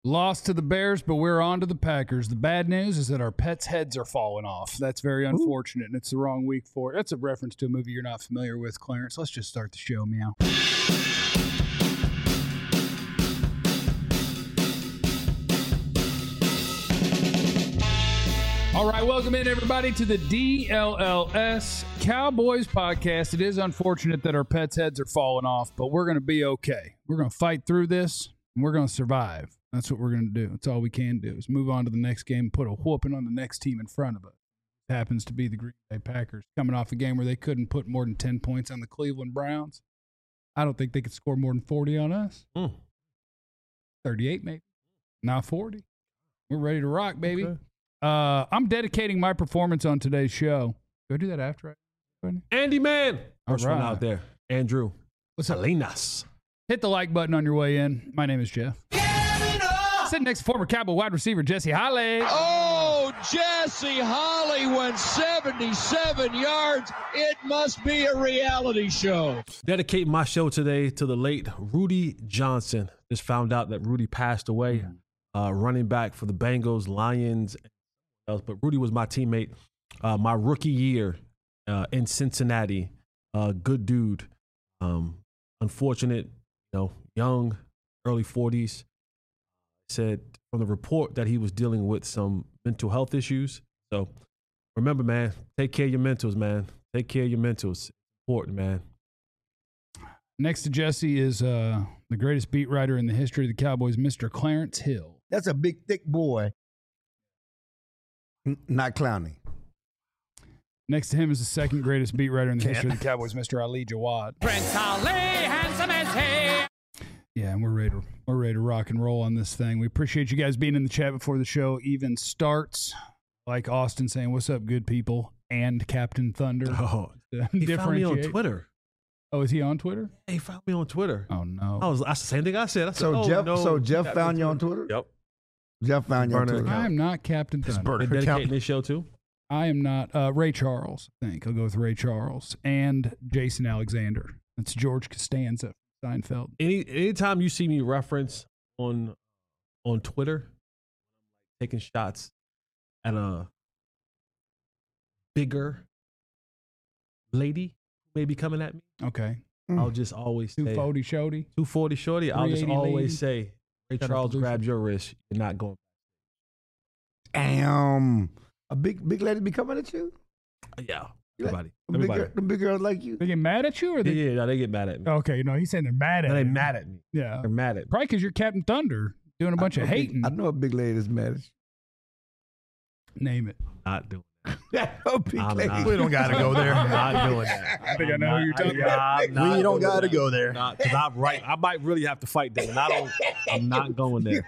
Lost to the Bears, but we're on to the Packers. The bad news is that our pets' heads are falling off. That's very unfortunate, and it's the wrong week for it. That's a reference to a movie you're not familiar with, Clarence. Let's just start the show, meow. All right, welcome in, everybody, to the DLLS Cowboys podcast. It is unfortunate that our pets' heads are falling off, but we're going to be okay. We're going to fight through this, and we're going to survive. That's what we're going to do. That's all we can do is move on to the next game and put a whooping on the next team in front of us. It happens to be the Green Bay Packers coming off a game where they couldn't put more than 10 points on the Cleveland Browns. I don't think they could score more than 40 on us. 38 maybe. Not 40. We're ready to rock, baby. Okay. I'm dedicating my performance on today's show. Do I do that after? Andy Man. First right. one out there. Andrew. What's up? Salinas. Hit the like button on your way in. My name is Jeff. Sitting next to former Cowboy wide receiver Jesse Holley. Oh, Jesse Holley went 77 yards. It must be a reality show. Dedicating my show today to the late Rudy Johnson. Just found out that Rudy passed away. Running back for the Bengals, Lions, but Rudy was my teammate my rookie year in Cincinnati. Good dude. Unfortunate, young, early 40s. Said from the report that he was dealing with some mental health issues. So remember, man, take care of your mentals, man. Take care of your mentals. It's important, man. Next to Jesse is the greatest beat writer in the history of the Cowboys, Mr. Clarence Hill. That's a big, thick boy. Not clowning. Next to him is the second greatest beat writer in the history of the Cowboys, Mr. Ali Jawad. Prince Ali, handsome as he. Yeah, and we're ready to rock and roll on this thing. We appreciate you guys being in the chat before the show even starts. Like Austin saying, "What's up, good people?" and Captain Thunder. Oh, he found me on Twitter. Oh, is he on Twitter? He found me on Twitter. Oh no! That's the same thing I said. Jeff found you on Twitter. Yep. Jeff found you on Twitter. I am not Captain Thunder. They're dedicating this show too. I am not Ray Charles. I think I'll go with Ray Charles and Jason Alexander. That's George Costanza. Seinfeld. Anytime you see me reference on Twitter, taking shots at a bigger lady who may be coming at me. Okay. I'll just always say 240 shorty. 240 shorty. I'll just always say, Ray Charles grabbed your wrist. You're not going. Damn. A big lady be coming at you? Yeah. Everybody. Everybody. The big girls like you? They get mad at you? Or they... Yeah, they get mad at me. Okay, he's saying they're mad at you. They're mad at me. Yeah. They're mad at me. Probably because you're Captain Thunder doing a bunch of hating. I know a big lady that's mad at you. Name it. Not doing We don't got to go there. I'm not doing that. I think I know who you're talking about. We don't got to go there. Because I'm right. I might really have to fight them. And I'm not going there.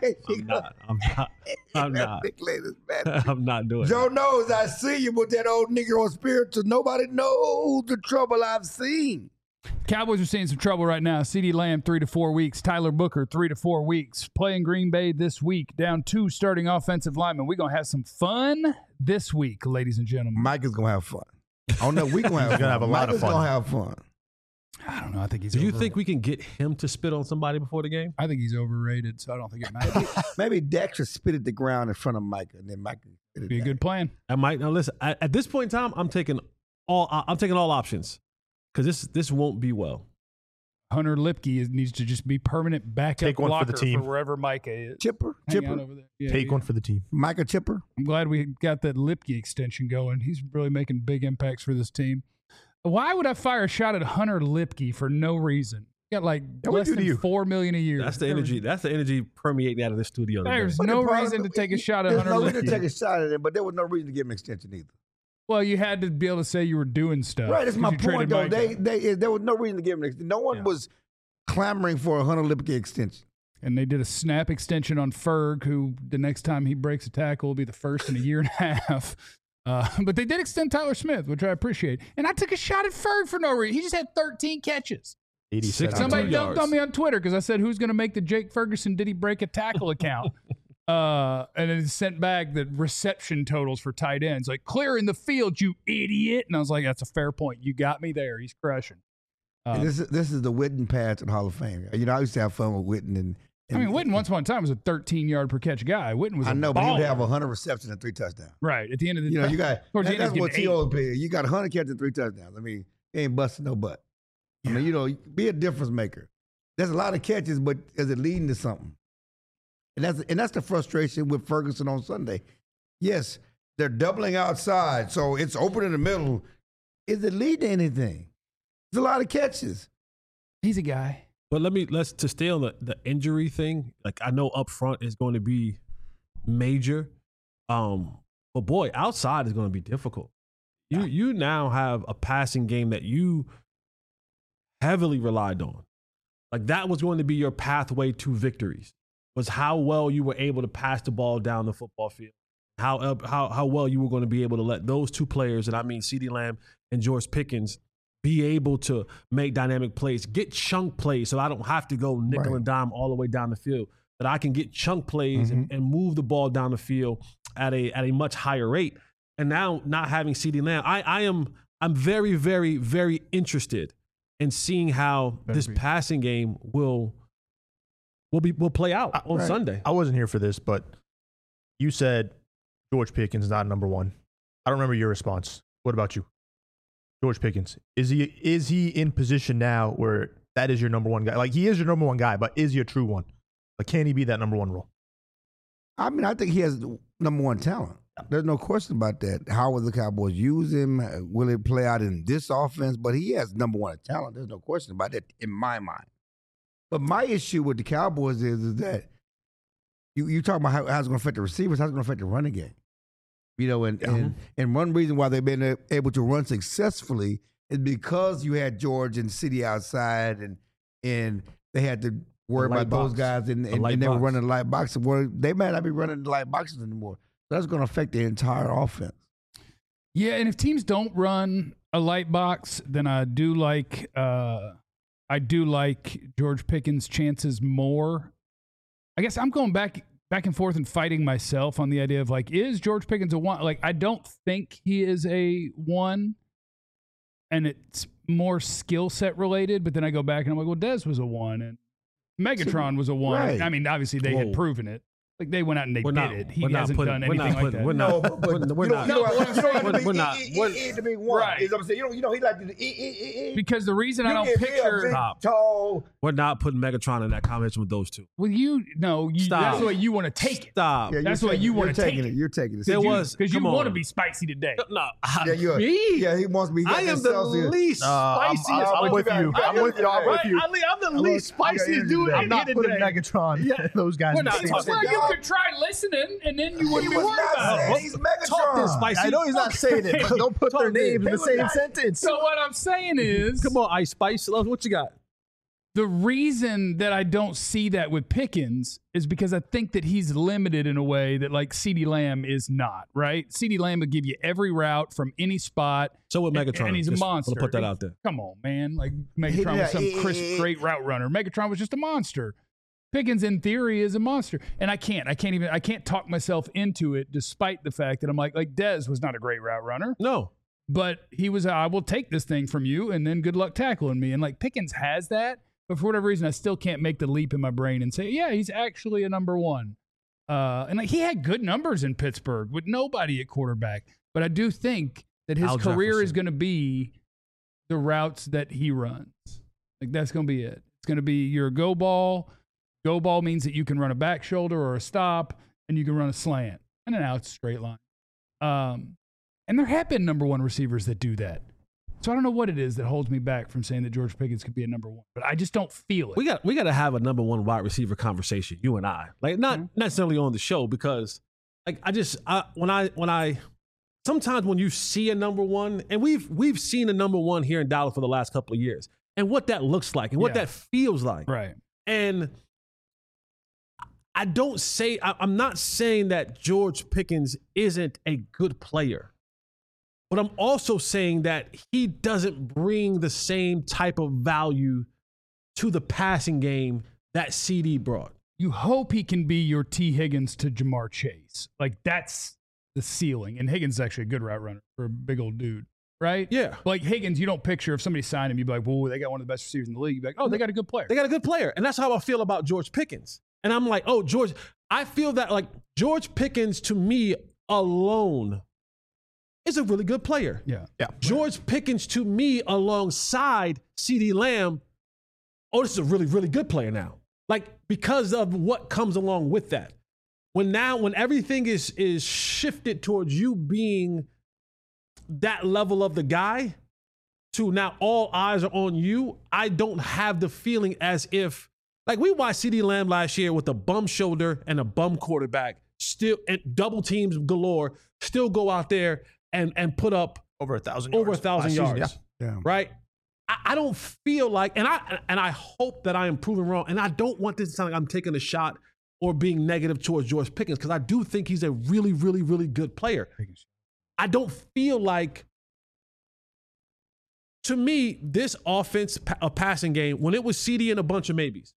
I'm not. Big lady's mad at you. I'm not doing Joe that. knows I see you with that old Negro spiritual. Nobody knows the trouble I've seen. Cowboys are seeing some trouble right now. CeeDee Lamb, 3 to 4 weeks. Tyler Booker, 3 to 4 weeks. Playing Green Bay this week. Down 2 starting offensive linemen. We're going to have some fun this week, ladies and gentlemen. Mike is going to have fun. Oh, no, we're going to have fun. He's going to have a lot of fun. Mike is going to have fun. I don't know. I think he's Do you think we can get him to spit on somebody before the game? I think he's overrated, so I don't think it matters. Maybe Dak should spit at the ground in front of Micah, and then Micah spit at Be a Dak. good plan. I might. Now, listen, at this point in time, I'm taking all options because this won't be well. Hunter Lipke needs to just be permanent backup Take one for blocker the team. for wherever Micah is. Chipper. Hang out over there. Yeah, Take one for the team. Micah Chipper. I'm glad we got that Lipke extension going. He's really making big impacts for this team. Why would I fire a shot at Hunter Lipke for no reason? He got like less than $4 million a year. That's the energy. That's the energy permeating out of the studio. There's But no the problem- reason to take a shot at There's Hunter no reason to take Lipke. a shot at him, but there was no reason to give him an extension either. Well, you had to be able to say you were doing stuff. Right, that's my 'cause you point, traded though. Micah. There was no reason to give him an extension. No one was clamoring for a Hunter Lipke extension. And they did a snap extension on Ferg, who the next time he breaks a tackle will be the first in a year and a half. But they did extend Tyler Smith, which I appreciate. And I took a shot at Ferg for no reason. He just had 13 catches. 86. Somebody 2 dunked yards. on me on Twitter because I said, who's going to make the Jake Ferguson did he break a tackle account? And it sent back the reception totals for tight ends. Like, clearing the field, you idiot. And I was like, that's a fair point. You got me there. He's crushing. And this is the Witten pass in Hall of Fame. You know, I used to have fun with Witten, and I mean, Witten once upon a time was a 13-yard per catch guy. Witten was I a know, but he baller. would have 100 receptions and 3 touchdowns. Right. At the end of the You know, you got towards the end, that's he's what getting T.O. paid. You got 100 catches and 3 touchdowns. I mean, he ain't busting no butt. I mean, you know, be a difference maker. There's a lot of catches, but is it leading to something? And that's the frustration with Ferguson on Sunday. Yes, they're doubling outside, so it's open in the middle. Is it leading to anything? There's a lot of catches. He's a guy. But let's to stay on the injury thing. Like, I know up front is going to be major. But boy, outside is going to be difficult. You now have a passing game that you heavily relied on. Like, that was going to be your pathway to victories, was how well you were able to pass the ball down the football field. How well you were going to be able to let those two players, and I mean CeeDee Lamb and George Pickens, be able to make dynamic plays, get chunk plays, so I don't have to go nickel and dime all the way down the field. That I can get chunk plays and move the ball down the field at a much higher rate. And now, not having CeeDee Lamb, I'm very, very, very interested in seeing how this passing game will play out on Sunday. I wasn't here for this, but you said George Pickens is not number one. I don't remember your response. What about you? George Pickens, is he in position now where that is your number one guy? Like, he is your number one guy, but is he a true one? Like, can he be that number one role? I mean, I think he has number one talent. There's no question about that. How will the Cowboys use him? Will it play out in this offense? But he has number one talent. There's no question about that in my mind. But my issue with the Cowboys is that you talk about how it's going to affect the receivers, how it's going to affect the running game. You know, and one reason why they've been able to run successfully is because you had George and CeeDee outside, and they had to worry about those guys, and they were running the light box. They might not be running the light boxes anymore. That's going to affect the entire offense. Yeah, and if teams don't run a light box, then I do like George Pickens' chances more. I guess I'm going back and forth and fighting myself on the idea of, like, is George Pickens a one? Like, I don't think he is a one, and it's more skill set related. But then I go back and I'm like, well, Dez was a one, and Megatron was a one. Right. I mean, obviously they had proven it. Like, they went out and they did it. He hasn't done anything like that. We're not. Because the reason I don't picture We're not putting Megatron in that combination with those two. well, that's the way you want to take it. Stop. Yeah, That's the way you want to take it. You're taking it. There was Because you come want to on. be spicy today. No, Me? Yeah, he wants me. I am the least spiciest. I'm with you. I'm with you. I'm the least spiciest dude. I'm not putting Megatron. Those guys. in the same Well, sentence. you could try listening, and then you wouldn't be worried about it. He's Talk this Megatron. spicy. I know he's not saying it, but don't put their names in the same sentence. So what I'm saying is, Come on, Ice Spice. What you got? the reason that I don't see that with Pickens is because I think that he's limited in a way that, like, CeeDee Lamb is not, right? CeeDee Lamb will give you every route from any spot. So with Megatron, and he's a just monster. wanna put that out there. Come on, man. Like, Megatron was some crisp, great route runner. Megatron was just a monster. Pickens, in theory, is a monster. And I can't talk myself into it, despite the fact that I'm like Dez was not a great route runner. No. But he was, I will take this thing from you, and then good luck tackling me. And, like, Pickens has that, but for whatever reason, I still can't make the leap in my brain and say, yeah, he's actually a number one. And, like, he had good numbers in Pittsburgh with nobody at quarterback. But I do think that his Al career is Jefferson. going to be the routes that he runs. Like, that's going to be it. It's going to be your go ball. Go ball means that you can run a back shoulder or a stop, and you can run a slant and an out straight line. And there have been number one receivers that do that. So I don't know what it is that holds me back from saying that George Pickens could be a number one, but I just don't feel it. We got to have a number one wide receiver conversation, you and I. Like, not necessarily on the show, because, like, sometimes when you see a number one, and we've seen a number one here in Dallas for the last couple of years, and what that looks like and what that feels like. Right. And I'm not saying that George Pickens isn't a good player, but I'm also saying that he doesn't bring the same type of value to the passing game that CeeDee brought. You hope he can be your T. Higgins to Jamar Chase. Like, that's the ceiling. And Higgins is actually a good route runner for a big old dude, right? Yeah. Like, Higgins, you don't picture if somebody signed him, you'd be like, whoa, they got one of the best receivers in the league. You'd be like, oh, they got a good player. They got a good player. And that's how I feel about George Pickens. And I'm like, oh, George, I feel that like George Pickens to me alone is a really good player. Yeah. George Pickens to me alongside CeeDee Lamb, oh, this is a really, really good player now. Like, because of what comes along with that. When everything is shifted towards you being that level of the guy to now all eyes are on you, I don't have the feeling as if, like we watched CeeDee Lamb last year with a bum shoulder and a bum quarterback, still and double teams galore, still go out there and put up over 1,000 yards. Over 1,000 yards. Yeah. Right? I don't feel like, and I hope that I am proven wrong, and I don't want this to sound like I'm taking a shot or being negative towards George Pickens, because I do think he's a really, really, really good player. I don't feel like, to me, this offense, a passing game, when it was CeeDee and a bunch of maybes,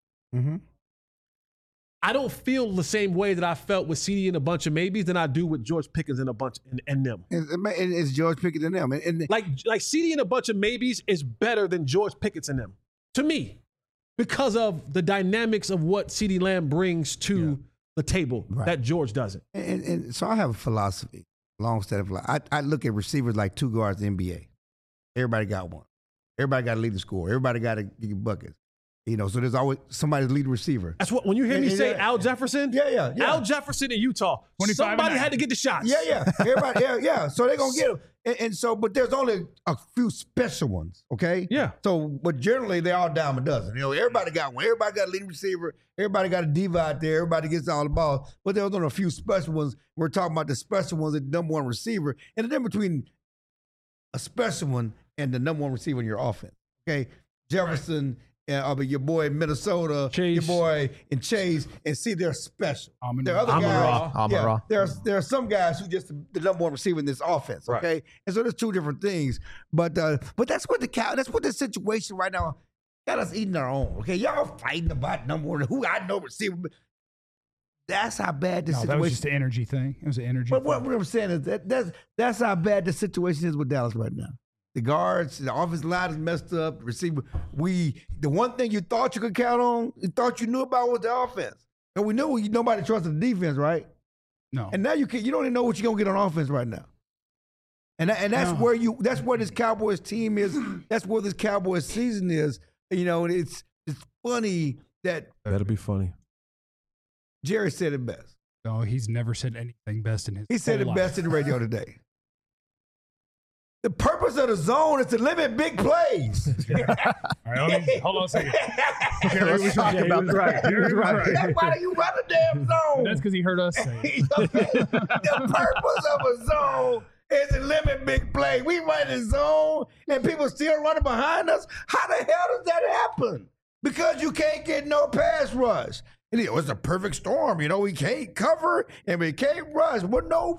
I don't feel the same way that I felt with CeeDee and a bunch of maybes than I do with George Pickens and a bunch and them. It's George Pickens and them. And like CeeDee and a bunch of maybes is better than George Pickens and them, to me, because of the dynamics of what CeeDee Lamb brings to the table that George doesn't. And so I have a philosophy, long-standing philosophy. I look at receivers like two guards in the NBA. Everybody got one. Everybody got to lead the score. Everybody got to get buckets. You know, so there's always somebody to lead the receiver. That's what, when you hear me say Al Jefferson, yeah. Al Jefferson in Utah, somebody had to get the shots. Yeah. Everybody, yeah. So they're going to get them. And so, but there's only a few special ones, okay? Yeah. So, but generally, they're all dime a dozen. You know, everybody got one. Everybody got a leading receiver. Everybody got a diva out there. Everybody gets all the ball. But there's only a few special ones. We're talking about the special ones, the number one receiver. And the difference between a special one and the number one receiver in your offense, okay? Jefferson, your boy in Minnesota, Chase. your boy in Chase, and see they're special. There are other Amon-Ra. guys. Yeah, there are some guys who just the number one receiver in this offense. Okay, Right. and so there's two different things. But that's what the situation right now got us eating our own. Okay, y'all fighting about number one who I know receiver. But that's how bad the situation. That was just an energy thing. It was an energy. But thing. what I'm saying is that's how bad the situation is with Dallas right now. The guards, the offensive line is messed up. The receiver, the one thing you thought you could count on, you thought you knew about was the offense. And we knew nobody trusted the defense, right? No. And now you don't even know what you're gonna get on offense right now. And that's where this Cowboys team is. That's where this Cowboys season is. You know, and it's funny that That'll be funny. Jerry said it best. No, he's never said anything best in his. He said whole it best in the radio today. The purpose of the zone is to limit big plays. All right, hold on a second. Okay, let's talk about that. He was right. That's why you run a damn zone. That's because he heard us say it. The purpose of a zone is to limit big play. We run a zone and people still running behind us. How the hell does that happen? Because you can't get no pass rush. And it was a perfect storm. You know, we can't cover and we can't rush. Well, no.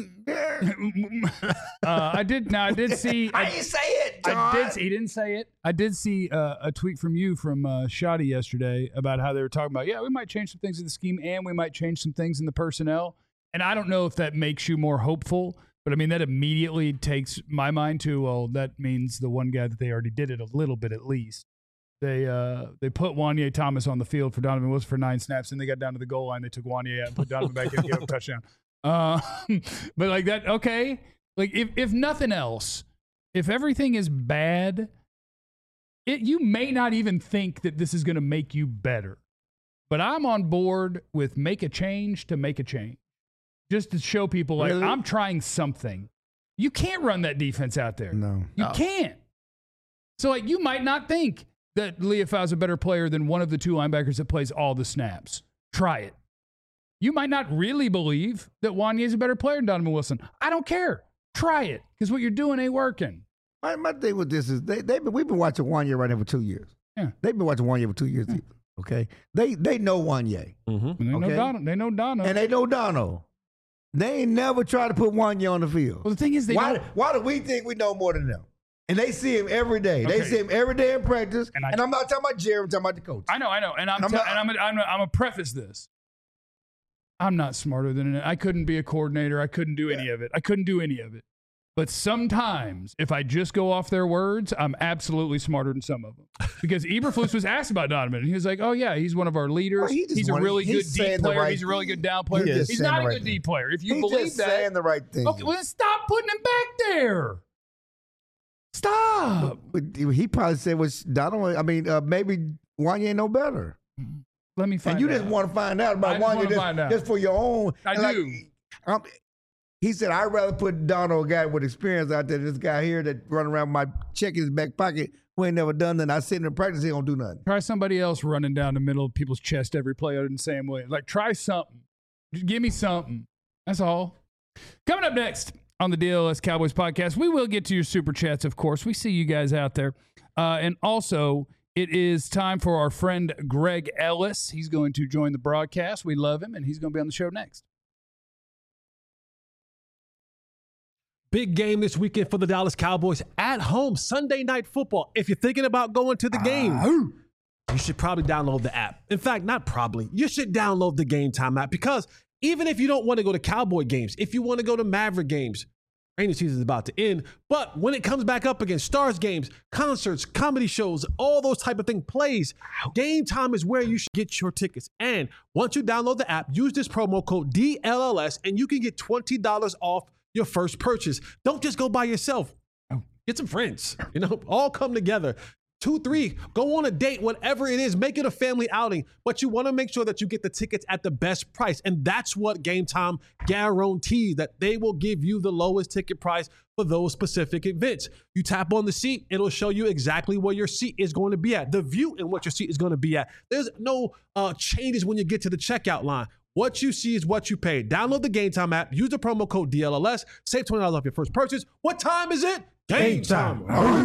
I did see. I didn't say it, John. He didn't say it. I did see a tweet from you from Shoddy yesterday about how they were talking about, we might change some things in the scheme and we might change some things in the personnel. And I don't know if that makes you more hopeful, but I mean, that immediately takes my mind to, well, that means the one guy that they already did it a little bit at least. They put Wanye Thomas on the field for Donovan Wilson for 9 snaps, and they got down to the goal line. They took Wanye out and put Donovan back in and gave him a touchdown. But like that, okay. Like if nothing else, if everything is bad, you may not even think that this is going to make you better. But I'm on board with make a change to make a change, just to show people like Really? I'm trying something. You can't run that defense out there. No. You can't. So like you might not think that Leofau is a better player than one of the two linebackers that plays all the snaps. Try it. You might not really believe that Wanye is a better player than Donovan Wilson. I don't care. Try it, because what you're doing ain't working. My thing with this is we've been watching Wanye right now for 2 years. Yeah. They've been watching Wanye for 2 years. Either, okay, they know Wanye. Mm-hmm. And they know Okay. Dono. They know Dono. And they know Dono. They ain't never tried to put Wanye on the field. Well, the thing is, Why do we think we know more than them? And they see him every day. They Okay. see him every day in practice. And And I'm not talking about Jerry. I'm talking about the coach. I know. And I'm gonna preface this. I'm not smarter than it. I couldn't be a coordinator. I couldn't do any of it. But sometimes, if I just go off their words, I'm absolutely smarter than some of them. Because Eberflus was asked about Donovan, and he was like, "Oh yeah, he's one of our leaders. Well, he's a really good D player. He's a really good down player. He's not a good D player. If you believe that, saying the right thing. Okay, well, then stop putting him back there. Stop. But he probably said, "Was Donovan? I mean, maybe Wanya ain't no better." Let me find out. And you just want to find out about Wanya just for your own. I do. He said, I'd rather put Donald, a guy with experience, out there than this guy here that run around with my check in his back pocket who ain't never done nothing. I sit in practice, he don't do nothing. Try somebody else running down the middle of people's chest every play other than Sam Williams. Like, try something. Just give me something. That's all. Coming up next on the DLS Cowboys podcast, we will get to your super chats, of course. We see you guys out there. And also, it is time for our friend Greg Ellis. He's going to join the broadcast. We love him, and he's going to be on the show next. Big game this weekend for the Dallas Cowboys at home, Sunday Night Football. If you're thinking about going to the game, you should probably download the app. In fact, not probably. You should download the Game Time app because even if you don't want to go to Cowboy games, if you want to go to Maverick games, rainy season is about to end, but when it comes back up again, Stars games, concerts, comedy shows, all those type of things, plays, Game Time is where you should get your tickets. And once you download the app, use this promo code DLLS and you can get $20 off your first purchase. Don't just go by yourself. Get some friends, all come together. 2, 3, go on a date, whatever it is, make it a family outing, but you want to make sure that you get the tickets at the best price. And that's what Game Time guarantees, that they will give you the lowest ticket price for those specific events. You tap on the seat, it'll show you exactly where your seat is going to be at, the view and what your seat is going to be at. There's no changes when you get to the checkout line. What you see is what you pay. Download the Game Time app. Use the promo code DLLS. Save $20 off your first purchase. What time is it? Game time.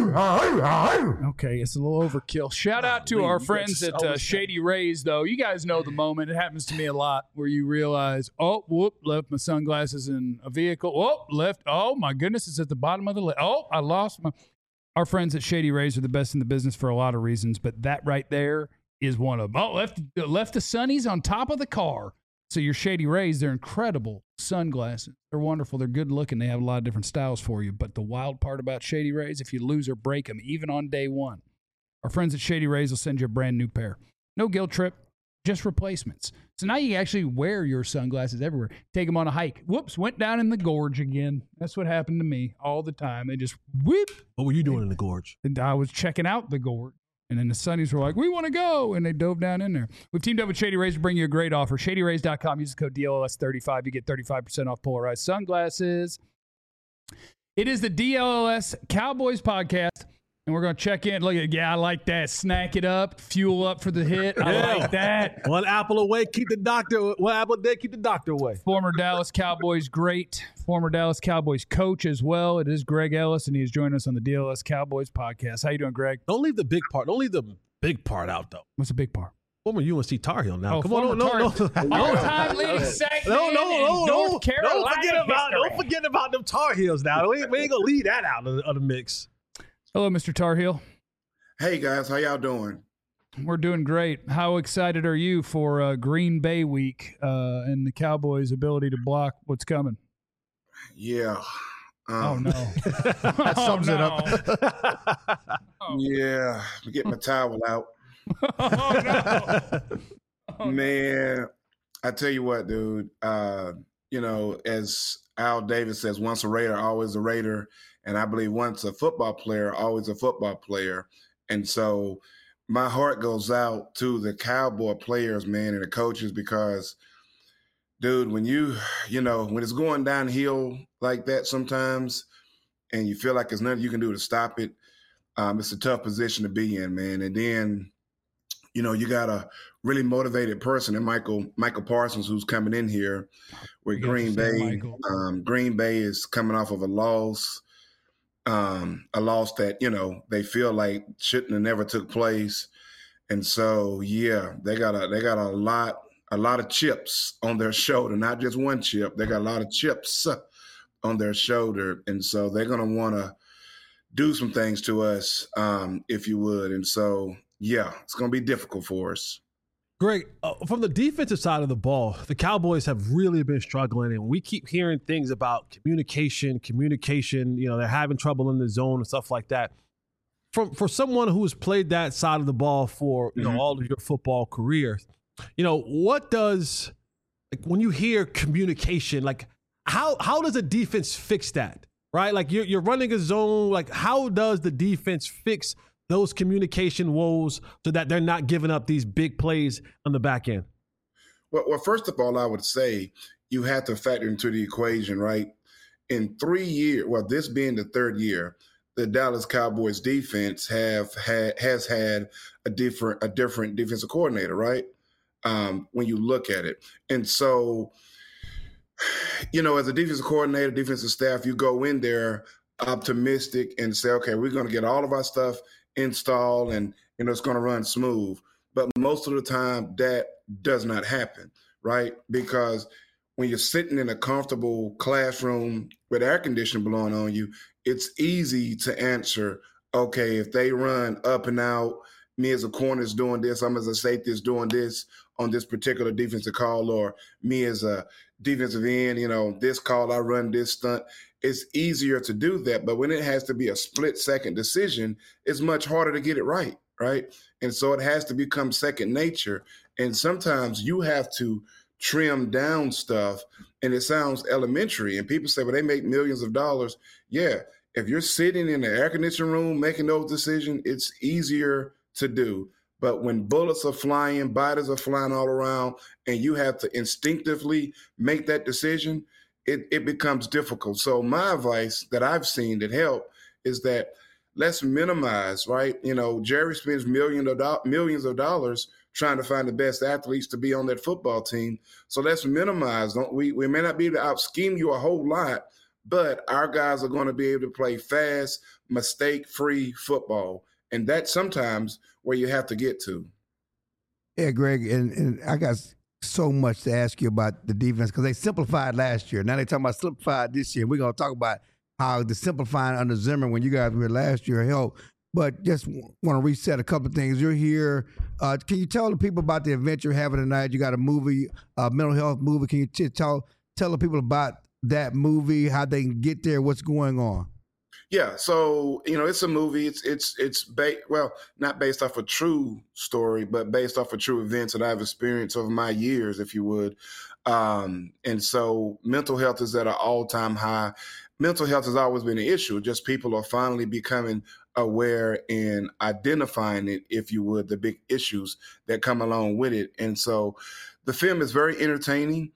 Okay, it's a little overkill. Shout out to our friends at Shady Rays, though. You guys know the moment. It happens to me a lot where you realize, left my sunglasses in a vehicle. Oh, my goodness, it's at the bottom of the list. Oh, I lost my... Our friends at Shady Rays are the best in the business for a lot of reasons, but that right there is one of them. Oh, left the sunnies on top of the car. So your Shady Rays, they're incredible sunglasses. They're wonderful. They're good looking. They have a lot of different styles for you. But the wild part about Shady Rays, if you lose or break them, even on day one, our friends at Shady Rays will send you a brand new pair. No guilt trip, just replacements. So now you can actually wear your sunglasses everywhere. Take them on a hike. Whoops, went down in the gorge again. That's what happened to me all the time. They just whoop. What were you doing in the gorge? And I was checking out the gorge. And then the Sunnies were like, we want to go. And they dove down in there. We've teamed up with Shady Rays to bring you a great offer. ShadyRays.com. Use the code DLLS35. You get 35% off polarized sunglasses. It is the DLLS Cowboys podcast. And we're going to check in. Look at, I like that. Snack it up. Fuel up for the hit. I like that. One apple away, keep the doctor. One apple a day, keep the doctor away. Former Dallas Cowboys great. Former Dallas Cowboys coach as well. It is Greg Ellis, and he is joining us on the DLS Cowboys podcast. How you doing, Greg? Don't leave the big part. Don't leave the big part out, though. What's the big part? Former UNC Tar Heel now. Come on, no. All-time leading segment in North Carolina. Don't forget about them Tar Heels now. We ain't going to leave that out of the mix. Hello, Mr. Tar Heel. Hey, guys. How y'all doing? We're doing great. How excited are you for Green Bay week and the Cowboys' ability to block what's coming? Yeah. Oh, no. That sums it up. Yeah. Get my towel out. Man, I tell you what, dude. As Al Davis says, once a Raider, always a Raider. And I believe once a football player, always a football player. And so my heart goes out to the Cowboy players, man, and the coaches because, dude, when when it's going downhill like that sometimes and you feel like there's nothing you can do to stop it, it's a tough position to be in, man. And then, you got a really motivated person in Michael Parsons who's coming in here with Green Bay. Green Bay is coming off of a loss that, they feel like shouldn't have never took place. And so, yeah, they got a lot of chips on their shoulder, not just one chip. They got a lot of chips on their shoulder. And so they're going to want to do some things to us, if you would. And so, yeah, it's going to be difficult for us. Greg, from the defensive side of the ball, the Cowboys have really been struggling, and we keep hearing things about communication. They're having trouble in the zone and stuff like that. For someone who has played that side of the ball for all of your football career, what does, like, when you hear communication, like how does a defense fix that? Right, like you're running a zone. Like, how does the defense fix those communication woes so that they're not giving up these big plays on the back end? Well, first of all, I would say you have to factor into the equation, right? In 3 years, well, this being the third year, the Dallas Cowboys defense has had a different defensive coordinator, right? When you look at it. And so, as a defensive coordinator, defensive staff, you go in there optimistic and say, okay, we're going to get all of our stuff installed and it's going to run smooth. But most of the time that does not happen, right? Because when you're sitting in a comfortable classroom with air conditioning blowing on you, it's easy to answer, okay, if they run up and out, me as a corner is doing this, I'm as a safety is doing this on this particular defensive call, or me as a defensive end, this call, I run this stunt. It's easier to do that. But when it has to be a split-second decision, it's much harder to get it right? And so it has to become second nature. And sometimes you have to trim down stuff, and it sounds elementary. And people say, well, they make millions of dollars. Yeah, if you're sitting in the air conditioning room making those decisions, it's easier to do. But when bullets are flying, bodies are flying all around, and you have to instinctively make that decision, it becomes difficult. So my advice that I've seen that help is that let's minimize, right? Jerry spends millions of dollars trying to find the best athletes to be on that football team. So let's minimize. We may not be able to out-scheme you a whole lot, but our guys are going to be able to play fast, mistake-free football. And that's sometimes where you have to get to. Yeah, Greg, and I got so much to ask you about the defense because they simplified last year. Now they're talking about simplified this year. We're going to talk about how the simplifying under Zimmer when you guys were last year helped. But just want to reset a couple of things. You're here. Can you tell the people about the event you're having tonight? You got a movie, mental health movie. Can you tell the people about that movie, how they can get there, what's going on? Yeah, so it's a movie. It's not based off a true story, but based off of true events that I've experienced over my years, if you would. And so mental health is at an all-time high. Mental health has always been an issue. Just people are finally becoming aware and identifying it, if you would, the big issues that come along with it. And so the film is very entertaining.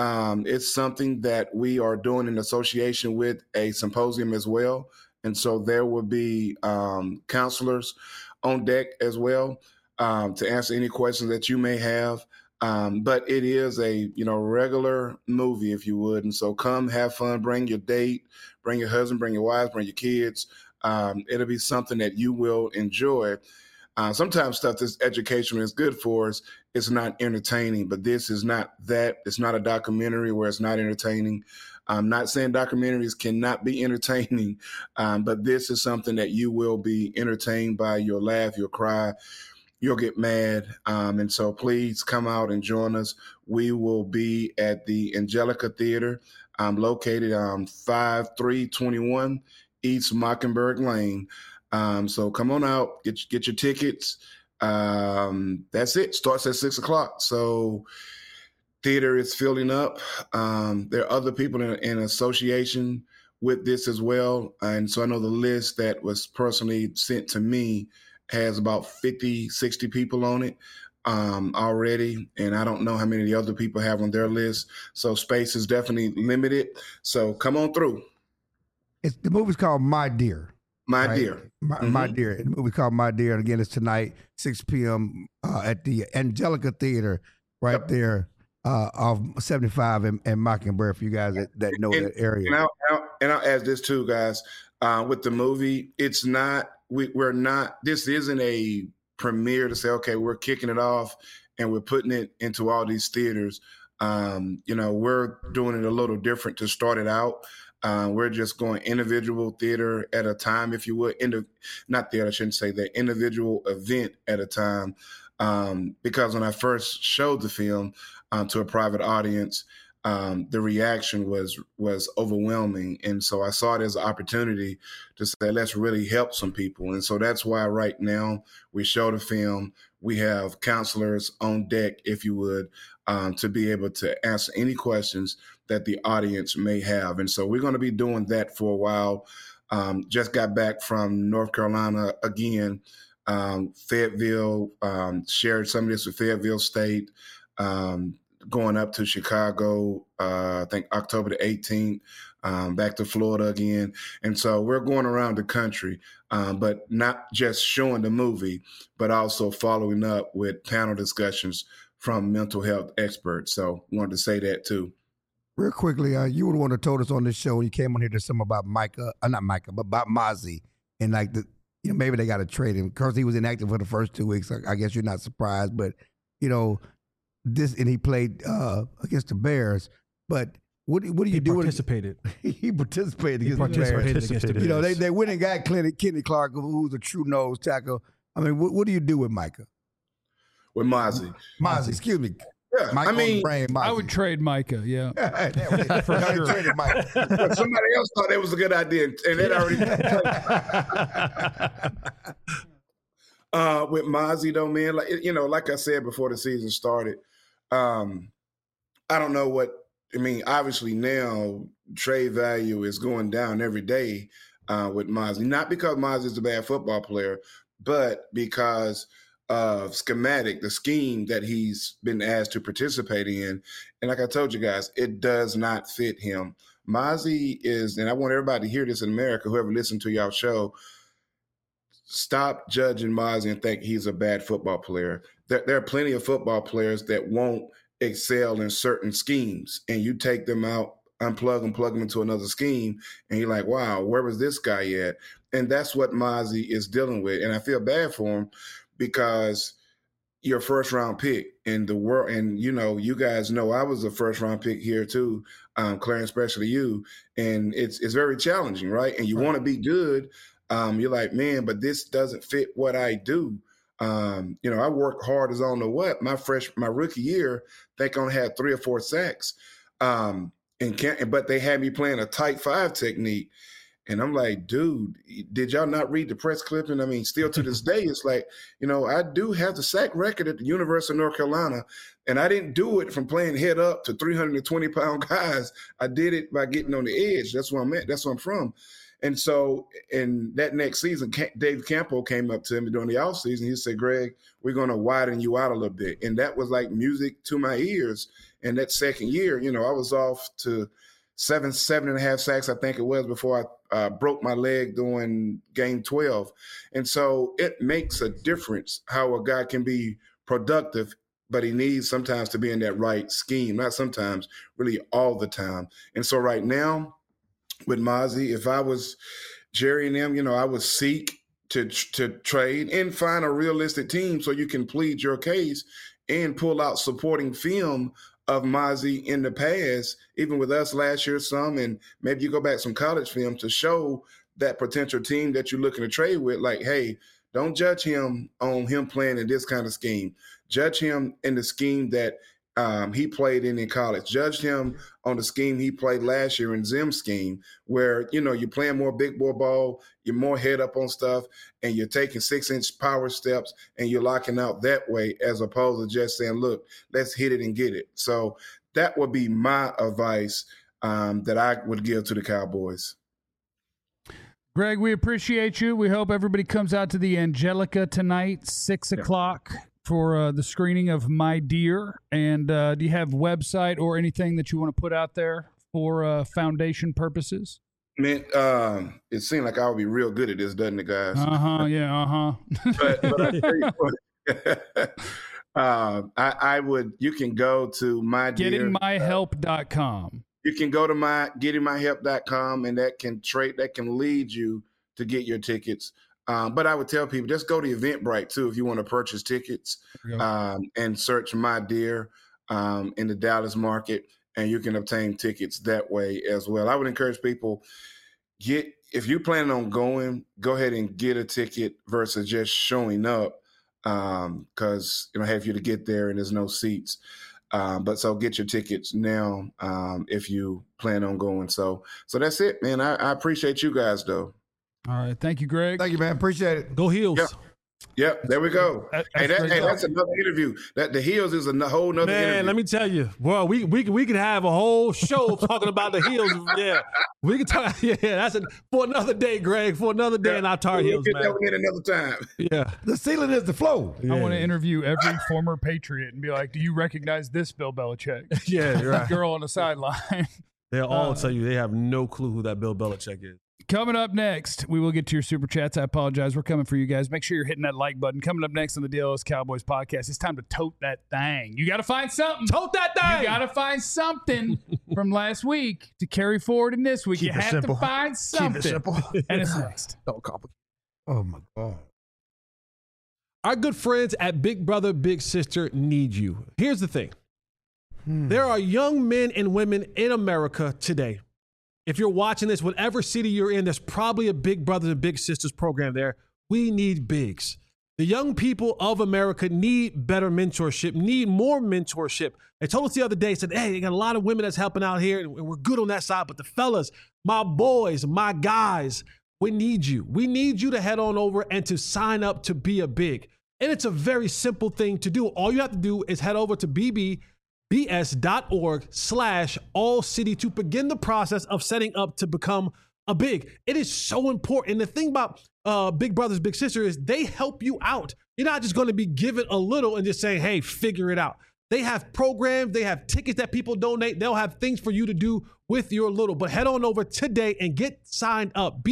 It's something that we are doing in association with a symposium as well. And so there will be counselors on deck as well to answer any questions that you may have. But it is a regular movie, if you would. And so come have fun, bring your date, bring your husband, bring your wives, bring your kids. It'll be something that you will enjoy. Sometimes stuff that's educational is good for us. It's not entertaining, but this is not that. It's not a documentary where it's not entertaining. I'm not saying documentaries cannot be entertaining, but this is something that you will be entertained by. You'll laugh, you'll cry, you'll get mad. And so please come out and join us. We will be at the Angelica Theater, located on 5321 East Mockingbird Lane. So come on out, get your tickets. That's it. Starts at 6:00. So theater is filling up. There are other people in association with this as well. And so I know the list that was personally sent to me has about 50, 60 people on it already. And I don't know how many of the other people have on their list. So space is definitely limited. So come on through. The movie's called My Dear. My right? Dear. My Dear. The movie's called My Dear. And again, it's tonight, 6 p.m. At the Angelica Theater right there off 75 and Mockingbird for you guys that know that area. And I'll add this too, guys. With the movie, it's not, we're not, this isn't a premiere to say, okay, we're kicking it off and we're putting it into all these theaters. We're doing it a little different to start it out. We're just going individual theater at a time, if you would. Not theater, I shouldn't say that. Individual event at a time. because when I first showed the film to a private audience, the reaction was overwhelming. And so I saw it as an opportunity to say, let's really help some people. And so that's why right now we show the film. We have counselors on deck, if you would, to be able to answer any questions that the audience may have. And so we're going to be doing that for a while. Just got back from North Carolina again, Fayetteville, shared some of this with Fayetteville State, going up to Chicago, I think October the 18th, back to Florida again. And so we're going around the country, but not just showing the movie, but also following up with panel discussions from mental health experts. So wanted to say that too. Real quickly, you would want to told us on this show when you came on here there's something about not Micah, but about Mazi. And like maybe they got to trade him because he was inactive for the first 2 weeks. I guess you're not surprised, but and he played against the Bears. But what do you do? Participated. He participated against the Bears. They went and got Kenny Clark, who's a true nose tackle. I mean, what do you do with Micah? With Mazi, excuse me. Yeah, I would trade Micah. Yeah, for sure. Somebody else thought that was a good idea, and that already. With Mazi though, man, like I said before the season started, I don't know what I mean. Obviously now trade value is going down every day with Mazi, not because Mazi is a bad football player, but because of the scheme that he's been asked to participate in. And like I told you guys, it does not fit him. Mazi is, and I want everybody to hear this in America, whoever listened to y'all show, stop judging Mazi and think he's a bad football player. There are plenty of football players that won't excel in certain schemes, and you take them out, unplug them, plug them into another scheme, and you're like, wow, where was this guy at? And that's what Mazi is dealing with. And I feel bad for him, because your first round pick in the world, and you guys know I was a first round pick here too, Clarence, especially you, and it's very challenging, right? And you want to be good. You're like, man, but this doesn't fit what I do. I worked hard as I don't know what. My rookie year, I think I only had 3 or 4 sacks, but they had me playing a tight 5 technique. And I'm like, dude, did y'all not read the press clipping? I mean, still to this day, it's like, I do have the sack record at the University of North Carolina, and I didn't do it from playing head up to 320-pound guys. I did it by getting on the edge. That's where I'm at. That's where I'm from. And so in that next season, Dave Campo came up to me during the offseason. He said, Greg, we're going to widen you out a little bit. And that was like music to my ears. And that second year, I was off to 7.5 sacks, I think it was, before I broke my leg doing game 12. And so it makes a difference how a guy can be productive, but he needs sometimes to be in that right scheme. Not sometimes, really all the time. And so right now with Mazi, if I was Jerry and them, I would seek to trade and find a realistic team so you can plead your case and pull out supporting film of Mazi in the past, even with us last year some, and maybe you go back some college film to show that potential team that you're looking to trade with, like, hey, don't judge him on him playing in this kind of scheme. Judge him in the scheme that he played in college. Judge him on the scheme he played last year in Zim's scheme, where, you're playing more big boy ball, you're more head up on stuff, and you're taking 6-inch power steps, and you're locking out that way, as opposed to just saying, look, let's hit it and get it. So that would be my advice that I would give to the Cowboys. Greg, we appreciate you. We hope everybody comes out to the Angelica tonight, 6 o'clock. For the screening of My Dear. And do you have website or anything that you want to put out there for foundation purposes? Man, it seemed like I would be real good at this, doesn't it, guys? Yeah, but I tell you what, I would. You can go to My Dear. GettingMyHelp.com. You can go to GettingMyHelp.com, and that can lead you to get your tickets. But I would tell people, just go to Eventbrite, too, if you want to purchase tickets, and search My Dear in the Dallas market, and you can obtain tickets that way as well. I would encourage people, if you're planning on going, go ahead and get a ticket versus just showing up. because have you to get there and there's no seats. But so get your tickets now if you plan on going. So that's it, man. I appreciate you guys, though. All right. Thank you, Greg. Thank you, man. Appreciate it. Go Heels. Yep, there we go. That's another interview. That the Heels is a whole nother interview. Man, let me tell you, well, we could have a whole show talking about the Heels. Yeah, we could talk. Yeah, that's for another day, Greg. For another day in our Tar Heels, Get man. that one in another time. Yeah, The ceiling is the flow. I want to interview every former Patriot and be like, do you recognize this Bill Belichick? yeah, you're right. Girl on the sideline. They'll all tell you they have no clue who that Bill Belichick is. Coming up next, we will get to your super chats. I apologize. We're coming for you guys. Make sure you're hitting that like button. Coming up next on the DLS Cowboys podcast, it's time to tote that thing. You got to find something. Tote that thing. You got to find something from last week to carry forward in this week. Keep you it have simple. to find something. Keep it simple. And it's next. Don't complicate. Oh, my God. Our good friends at Big Brother Big Sister need you. Here's the thing. There are young men and women in America today. If you're watching this, whatever city you're in, there's probably a Big Brothers and Big Sisters program there. We need bigs. The young people of America need better mentorship, need more mentorship. They told us the other day, said, hey, they got a lot of women that's helping out here, and we're good on that side. But the fellas, my boys, my guys, we need you. We need you to head on over and to sign up to be a big. And it's a very simple thing to do. All you have to do is head over to bbs.org/all-city to begin the process of setting up to become a big. It is so important. And the thing about Big Brothers Big Sister is they help you out. You're not just going to be given a little and just saying, hey, figure it out. They have programs, they have tickets that people donate. They'll have things for you to do with your little. But head on over today and get signed up.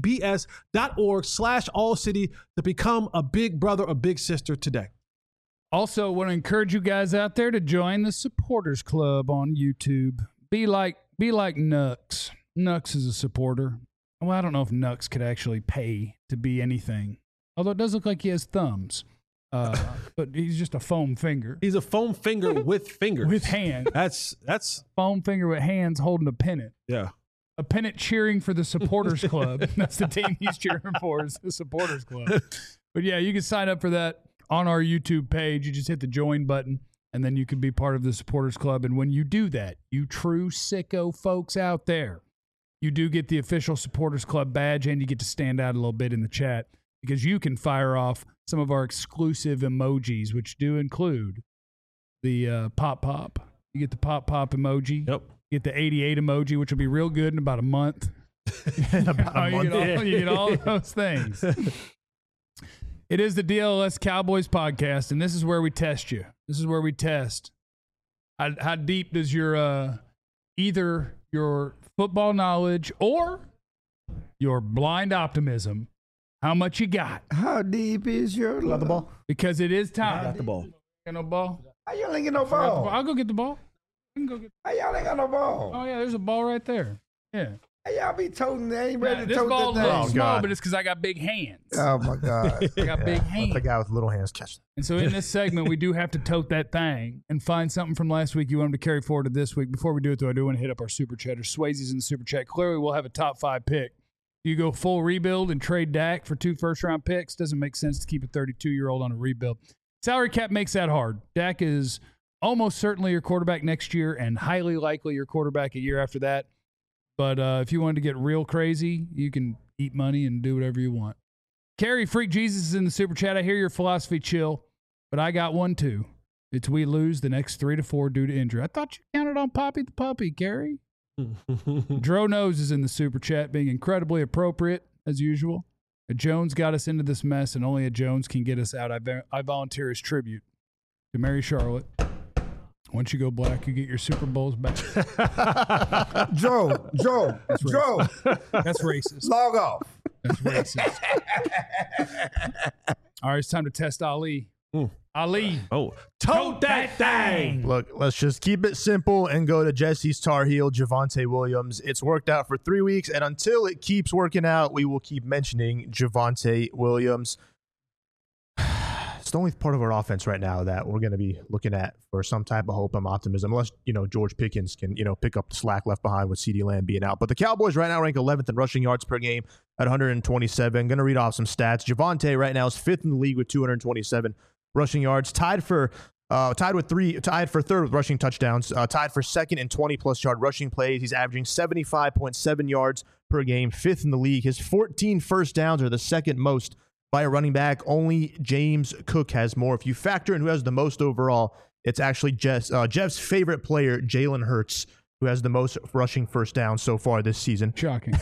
bbbs.org/all-city to become a big brother or big sister today. Also, want to encourage you guys out there to join the Supporters Club on YouTube. Be like Nux. Nux is a supporter. Well, I don't know if Nux could actually pay to be anything. Although it does look like he has thumbs. But he's just a foam finger. He's a foam finger with fingers. With hands. That's Foam finger with hands holding a pennant. yeah. A pennant cheering for the Supporters Club. That's the team he's cheering for, is the Supporters Club. But yeah, you can sign up for that on our YouTube page. You just hit the join button, and then you can be part of the Supporters Club. And when you do that, you true sicko folks out there, you do get the official Supporters Club badge, and you get to stand out a little bit in the chat because you can fire off some of our exclusive emojis, which do include the pop. You get the pop emoji. Yep. You get the 88 emoji, which will be real good in about a month. In about a month. You get all of those things. It is the DLS Cowboys podcast, and this is where we test you. This is where we test how deep does your either your football knowledge or your blind optimism, how much you got. How deep is your love? The ball. Because it is time. Got the ball. Got no ball? How y'all ain't get no I got the ball. ball? I'll go get the ball. I can go get. How y'all ain't got no ball? Oh yeah, there's a ball right there. Yeah. How y'all be toting? They ain't ready to This tote ball's a that little thing. small, God. but it's because I got big hands. Oh my God. I got big hands. Let the guy with little hands catch that. And so in this segment, we do have to tote that thing and find something from last week you want them to carry forward to this week. Before we do it, though, I do want to hit up our Super Chatter. Swayze's in the Super Chat. Clearly, we'll have a top 5 pick. You go full rebuild and trade Dak for 2 first-round picks. Doesn't make sense to keep a 32-year-old on a rebuild. Salary cap makes that hard. Dak is almost certainly your quarterback next year and highly likely your quarterback a year after that. But if you wanted to get real crazy, you can eat money and do whatever you want. Carrie Freak Jesus is in the Super Chat. I hear your philosophy chill, but I got one too. It's we lose the next 3 to 4 due to injury. I thought you counted on Poppy the Puppy, Carrie. Dro Nose is in the Super Chat, being incredibly appropriate as usual. A Jones got us into this mess, and only a Jones can get us out. I volunteer as tribute to Mary Charlotte. Once you go black, you get your Super Bowls back. Joe. That's racist. Log off. That's racist. All right, it's time to test Ali. Ali. Oh, tote that thing. Look, let's just keep it simple and go to Jesse's Tar Heel, Javonte Williams. It's worked out for 3 weeks, and until it keeps working out, we will keep mentioning Javonte Williams. the only part of our offense right now that we're going to be looking at for some type of hope and optimism, unless, George Pickens can, pick up the slack left behind with CeeDee Lamb being out. But the Cowboys right now rank 11th in rushing yards per game at 127. Going to read off some stats. Javonte right now is 5th in the league with 227 rushing yards, tied for third with rushing touchdowns, tied for second in 20-plus yard rushing plays. He's averaging 75.7 yards per game, 5th in the league. His 14 first downs are the second most by a running back. Only James Cook has more. If you factor in who has the most overall, it's actually Jeff's favorite player, Jalen Hurts, who has the most rushing first downs so far this season. Shocking.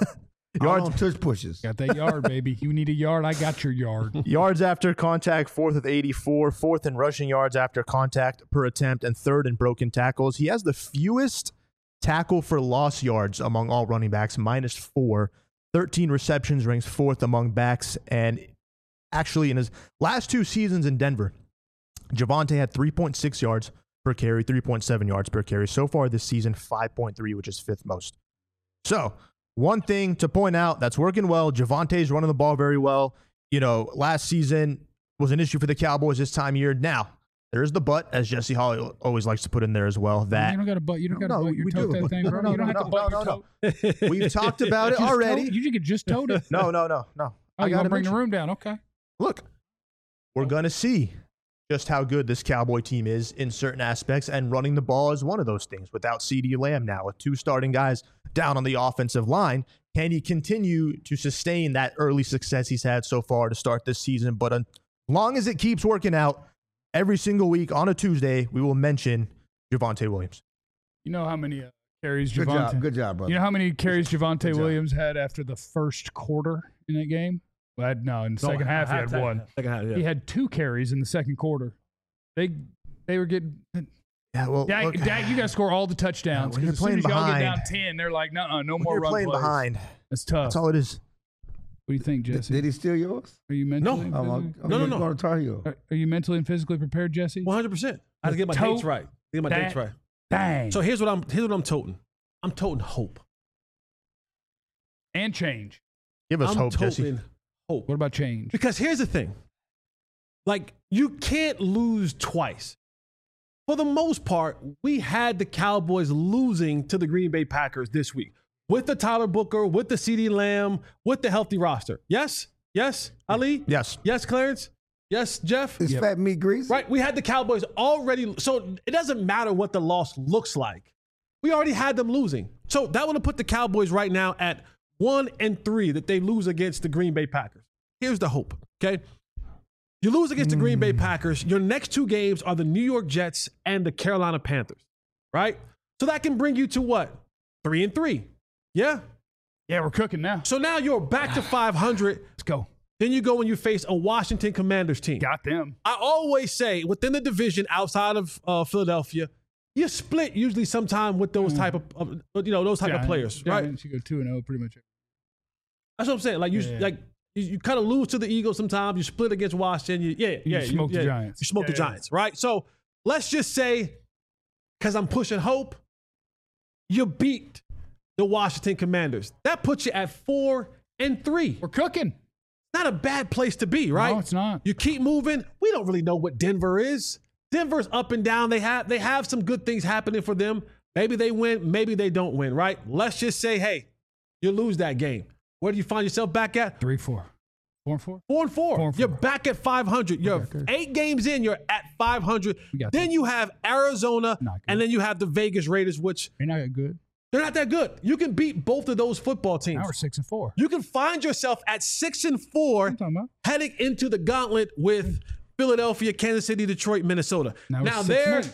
Yards on tush pushes. Got that yard, baby. You need a yard, I got your yard. Yards after contact, 4th with 84, 4th in rushing yards after contact per attempt, and 3rd in broken tackles. He has the fewest tackle for loss yards among all running backs, -4. 13 receptions, ranks 4th among backs. And actually, in his last 2 seasons in Denver, Javonte had 3.6 yards per carry, 3.7 yards per carry. So far this season, 5.3, which is 5th most. So, one thing to point out that's working well, Javonte's running the ball very well. Last season was an issue for the Cowboys this time of year. Now, there's the but, as Jesse Holly always likes to put in there as well. That you don't got a butt. You don't got to butt your toe that thing, bro. You don't have to butt your toe. We've talked about it already. You could just tote it. No. Oh, you got to bring the room down. Okay. Look, we're going to see just how good this Cowboy team is in certain aspects, and running the ball is one of those things. Without CeeDee Lamb now, with 2 starting guys down on the offensive line, can he continue to sustain that early success he's had so far to start this season? But as long as it keeps working out, every single week on a Tuesday, we will mention Javonte Williams. You know how many carries Javonte? Good job, brother. You know how many carries Javonte Williams had after the first quarter in that game? Well, no, in the second half he had 1. Second half, yeah. He had 2 carries in the second quarter. They were getting. Yeah, well, Dak, you got to score all the touchdowns. When you're as soon playing as y'all get behind, down 10, they're like, no more you're run playing plays. behind. That's tough. That's all it is. What do you think, Jesse? Did he steal yours? Are you mentally? No. and physically- No. Going to Tar Heel. Are you mentally and physically prepared, Jesse? 100%. I had to get my dates right. Dang. So here's what I'm toting. I'm toting hope. And change. Give us I'm hope, Jesse. toting hope. What about change? Because here's the thing. Like, you can't lose twice. For the most part, we had the Cowboys losing to the Green Bay Packers this week with the Tyler Booker, with the CeeDee Lamb, with the healthy roster. Yes? Ali? Yes. Yes, Clarence? Yes, Jeff? It's fat meat grease. Right. We had the Cowboys already. So it doesn't matter what the loss looks like. We already had them losing. So that would have put the Cowboys right now at 1-3 that they lose against the Green Bay Packers. Here's the hope, okay? You lose against the Green Bay Packers. Your next 2 games are the New York Jets and the Carolina Panthers, right? So that can bring you to what? 3-3. Yeah? Yeah, we're cooking now. So now you're back to 500. Let's go. Then you go and you face a Washington Commanders team. Got them. I always say within the division outside of Philadelphia, you split usually sometime with those type of those type of players, right? You go 2-0 pretty much. That's what I'm saying. Like you kind of lose to the Eagles sometimes. You split against Washington. You smoke the Giants. You smoke the Giants, right? So let's just say, because I'm pushing hope, you beat the Washington Commanders. That puts you at 4-3. We're cooking. Not a bad place to be, right? No, it's not. You keep moving. We don't really know what Denver is. Denver's up and down. They have some good things happening for them. Maybe they win, maybe they don't win, right? Let's just say, hey, you lose that game. Where do you find yourself back at? 3-4. 4-4? 4-4. You're back at 500. You're 8 games in, you're at 500. Then you have Arizona, and then you have the Vegas Raiders, which they're not that good. They're not that good. You can beat both of those football teams. Now we're 6-4. You can find yourself at 6-4 heading into the gauntlet with Philadelphia, Kansas City, Detroit, Minnesota. Now there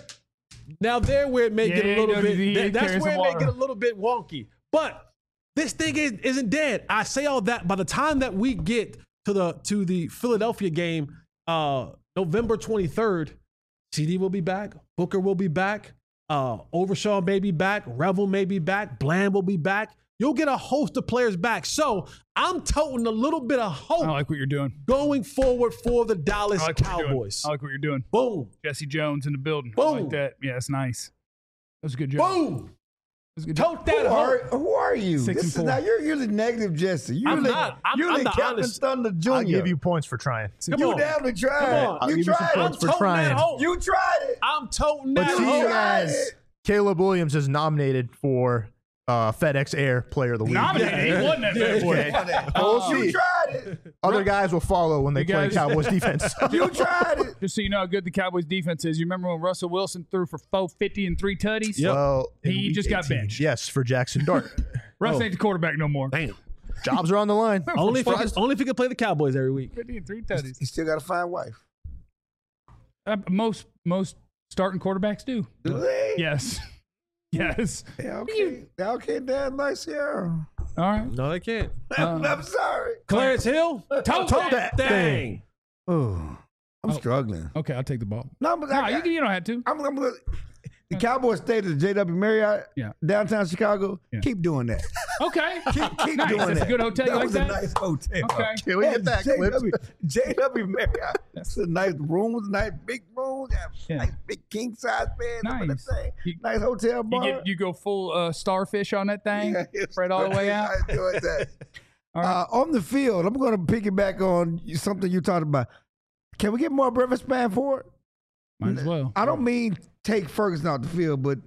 where it may get a little bit. That's where it may get a little bit wonky. But this thing isn't dead. I say all that. By the time that we get to the Philadelphia game, November 23rd, CD will be back. Booker will be back. Overshaw may be back. Revel may be back. Bland will be back. You'll get a host of players back. So I'm toting a little bit of hope. I like what you're doing. Going forward for the Dallas Cowboys. I like what you're doing. Boom. Jesse Jones in the building. Boom. I like that. Yeah, that's nice. That was a good job. Boom. Tote that. Who are you? 6 and 4. Now you're the negative Jesse. You're I'm the, not. You're I'm the the Captain honest. Thunder Jr. I'll give you points for trying. Come You on. definitely tried. Come on. I'll You give you some tried points it. for toting trying. that home. You tried it. I'm toting But that. see, home. guys, Caleb Williams is nominated for FedEx Air Player of the Week. Nominated. He won that bad boy. We'll You see. tried it. Other guys will follow when they You play guys- Cowboys defense. You tried it. Just so you know how good the Cowboys defense is. You remember when Russell Wilson threw for 450 and 3 tutties? Yep. Well, in He week just got 18. benched. Yes, for Jackson Dart. Russ ain't the quarterback no more. Damn. Jobs are on the line. Only if he can play the Cowboys every week. 50 and 3 tutties. He still got to find wife. Most starting quarterbacks do. Do they? Yes. Yes. Yeah, okay. Yeah, okay, Dad, nice here. All right. No, they can't. I'm sorry. Clarence Hill, tote that thing. Oh, I'm struggling. Okay, I'll take the ball. No, but No, you don't have to. I'm gonna. The Cowboys stayed at the JW Marriott, Yeah. downtown Chicago. Yeah. Keep doing that. Okay. Keep Nice. doing That's that. a good hotel. You That like was that? a nice hotel. Okay. Can we get that clip? JW Marriott. That's a nice rooms, nice big rooms, Yeah. nice big king size bed. Nice. Nice. Nice hotel bar. You go full starfish on that thing, spread all the way out. I enjoyed that. All right. On the field, I'm going to piggyback on something you talked about. Can we get more Breakfast Spanford? Might as well. I don't mean take Ferguson off the field, but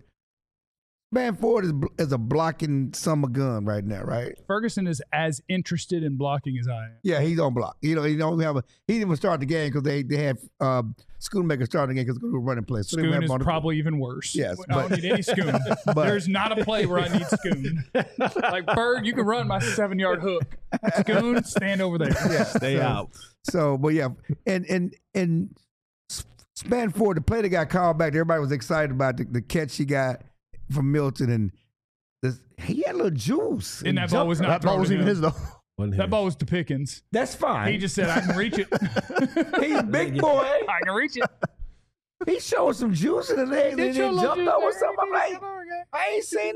Spanford is a blocking summer gun right now, right? Ferguson is as interested in blocking as I am. Yeah, he's on block. You know, he didn't even start the game because they had Schoonmaker starting the game because they were running plays. So they Schoon have is him on the- probably even worse. Yes, I don't but- need any Schoon. but- There's not a play where I need Schoon. Like Bird, you can run my 7-yard hook. Schoon, stand over there. Yeah, Stay out. So, but yeah, and Spanford, the play that got called back, everybody was excited about the catch he got from Milton, and he had a little juice. And that ball was not That ball thrown wasn't to even him. his, though. That ball was to Pickens. That's fine. He just said, I can reach it. He's a big boy. I can reach it. He showed some juice in the legs and Did he show a little jumped juice over there. something. I'm like, I ain't seen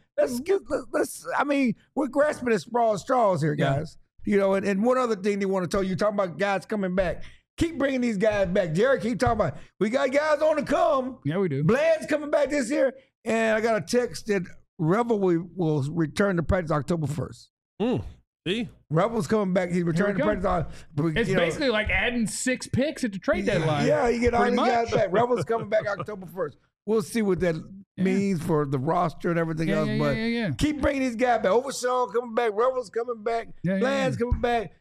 this. I mean, we're grasping at straws here, Yeah. guys. You know, and one other thing they want to tell you, talking about guys coming back. Keep bringing these guys back. Jerry, keep talking about, we got guys on the come. Yeah, we do. Bland's coming back this year. And I got a text that Revel will return to practice October 1st. See? Revel's coming back. He's returning to go. practice. It's basically like adding 6 picks at the trade deadline. Yeah, you get all Pretty these guys much. back. Revel's coming back October 1st. We'll see what that means for the roster and everything else. But keep bringing these guys back. Overshawn coming back. Revel's coming back. Bland's coming back.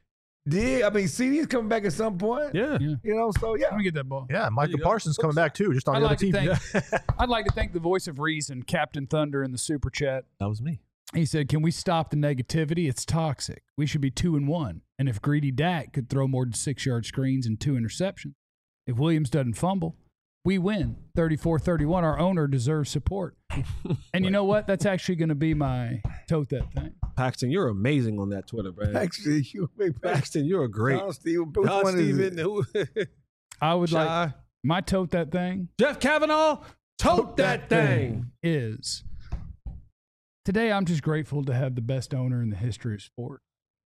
CD's coming back at some point. Yeah. You know, so yeah. Let me get that ball. Yeah, Micah you go. Parsons coming back, too, just on the other team. I'd like to thank the voice of reason, Captain Thunder, in the super chat. That was me. He said, "Can we stop the negativity? It's toxic. We should be 2-1. And if greedy Dak could throw more than 6-yard screens and 2 interceptions, if Williams doesn't fumble, we win 34-31. Our owner deserves support." And you know what? That's actually going to be my tote that thing. Paxton, you're amazing on that Twitter, bro. Actually, you big Paxton, you're a great. John Steven. Which John one is it? Steven. Who? I would Shy. like my tote that thing Jeff Kavanaugh, tote that thing. is today I'm just grateful to have the best owner in the history of sport.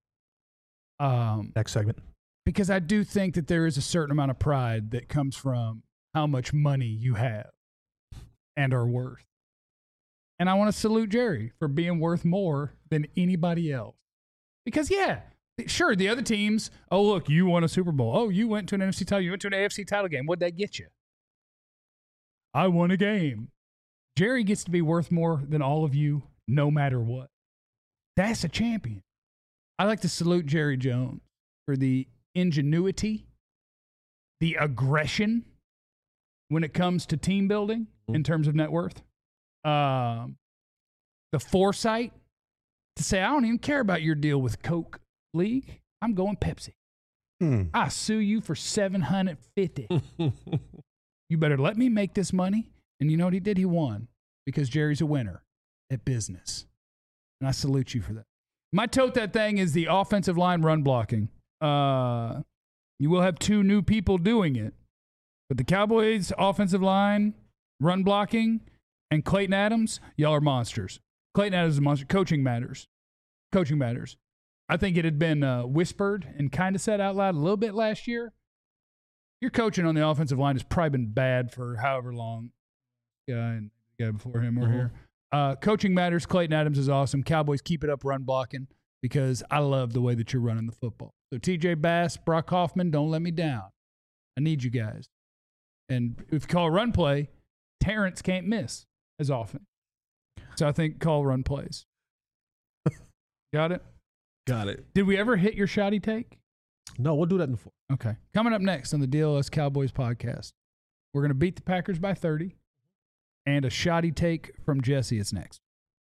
Next segment. Because I do think that there is a certain amount of pride that comes from how much money you have and are worth. And I want to salute Jerry for being worth more than anybody else. Because, yeah, sure, the other teams, oh, look, you won a Super Bowl. Oh, you went to an NFC title. You went to an AFC title game. What'd that get you? I won a game. Jerry gets to be worth more than all of you, no matter what. That's a champion. I like to salute Jerry Jones for the ingenuity, the aggression when it comes to team building in terms of net worth, the foresight to say, I don't even care about your deal with Coke League. I'm going Pepsi. I sue you for $750. You better let me make this money. And you know what he did? He won because Jerry's a winner at business. And I salute you for that. My tote that thing is the offensive line run blocking. You will have 2 new people doing it. But the Cowboys offensive line run blocking and Clayton Adams, y'all are monsters. Clayton Adams is a monster. Coaching matters. Coaching matters. I think it had been whispered and kind of said out loud a little bit last year. Your coaching on the offensive line has probably been bad for however long. Guy and the guy before him were here. Coaching matters. Clayton Adams is awesome. Cowboys, keep it up run blocking because I love the way that you're running the football. So TJ Bass, Brock Hoffman, don't let me down. I need you guys. And if you call run play, Terrence can't miss as often. So I think call run plays. Got it? Got it. Did we ever hit your shoddy take? No, we'll do that in the fourth. Okay. Coming up next on the DLS Cowboys podcast, we're going to beat the Packers by 30. And a shoddy take from Jesse is next.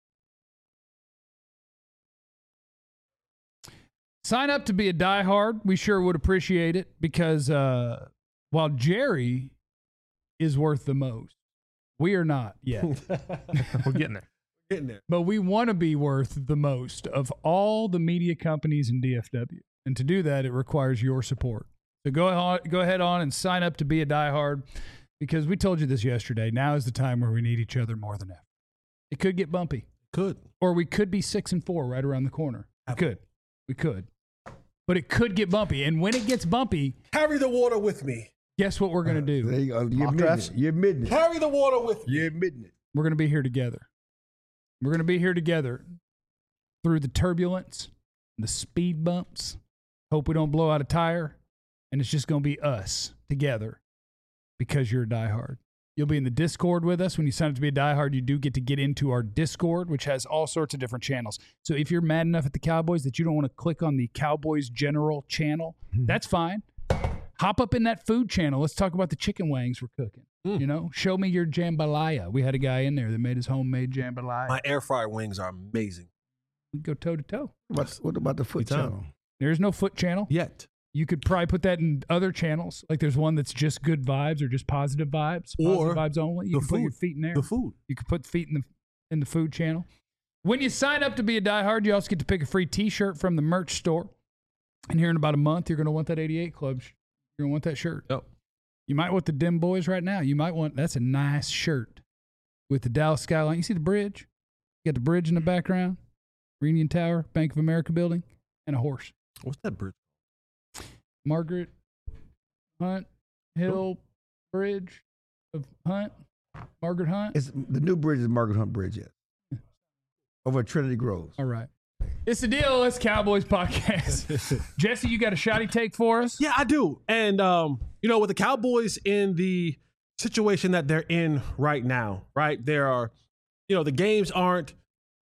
Sign up to be a diehard. We sure would appreciate it because while Jerry is worth the most, we are not yet. We're getting there. Getting there. But we want to be worth the most of all the media companies in DFW. And to do that, it requires your support. So go ahead on and sign up to be a diehard. Because we told you this yesterday. Now is the time where we need each other more than ever. It could get bumpy. Could. Or we could be 6-4 right around the corner. We could. But it could get bumpy. And when it gets bumpy, Carry the water with me. guess what we're going to do? There you go. You're admitting it. Carry the water with me. You're admitting it. We're going to be here together. We're going to be here together through the turbulence, the speed bumps. Hope we don't blow out a tire. And it's just going to be us together. Because you're a diehard. You'll be in the Discord with us. When you sign up to be a diehard, you do get to get into our Discord, which has all sorts of different channels. So if you're mad enough at the Cowboys that you don't want to click on the Cowboys General channel, that's fine. Hop up in that food channel. Let's talk about the chicken wangs we're cooking. You know, show me your jambalaya. We had a guy in there that made his homemade jambalaya. My air fryer wings are amazing. We go toe to toe. What about the foot channel? There's no foot channel. Yet. You could probably put that in other channels. Like there's one that's just good vibes or just positive vibes. Or positive vibes only. You can put your feet in there. The food. You can put feet in the food channel. When you sign up to be a diehard, you also get to pick a free T-shirt from the merch store. And here in about a month, you're going to want that 88 Club. You're going to want that shirt. Yep. You might want the Dim Boys right now. You might want, that's a nice shirt with the Dallas skyline. You see the bridge? You got the bridge in the background, Reunion Tower, Bank of America building, and a horse. What's that bridge? Margaret Hunt Hill Bridge of Hunt. Margaret Hunt. It's the new bridge is Margaret Hunt Bridge, yes. Over at Trinity Groves. All right. It's the DLS Cowboys podcast. Jesse, you got a shoddy take for us? Yeah, I do. And, with the Cowboys in the situation that they're in right now, right? There are, the games aren't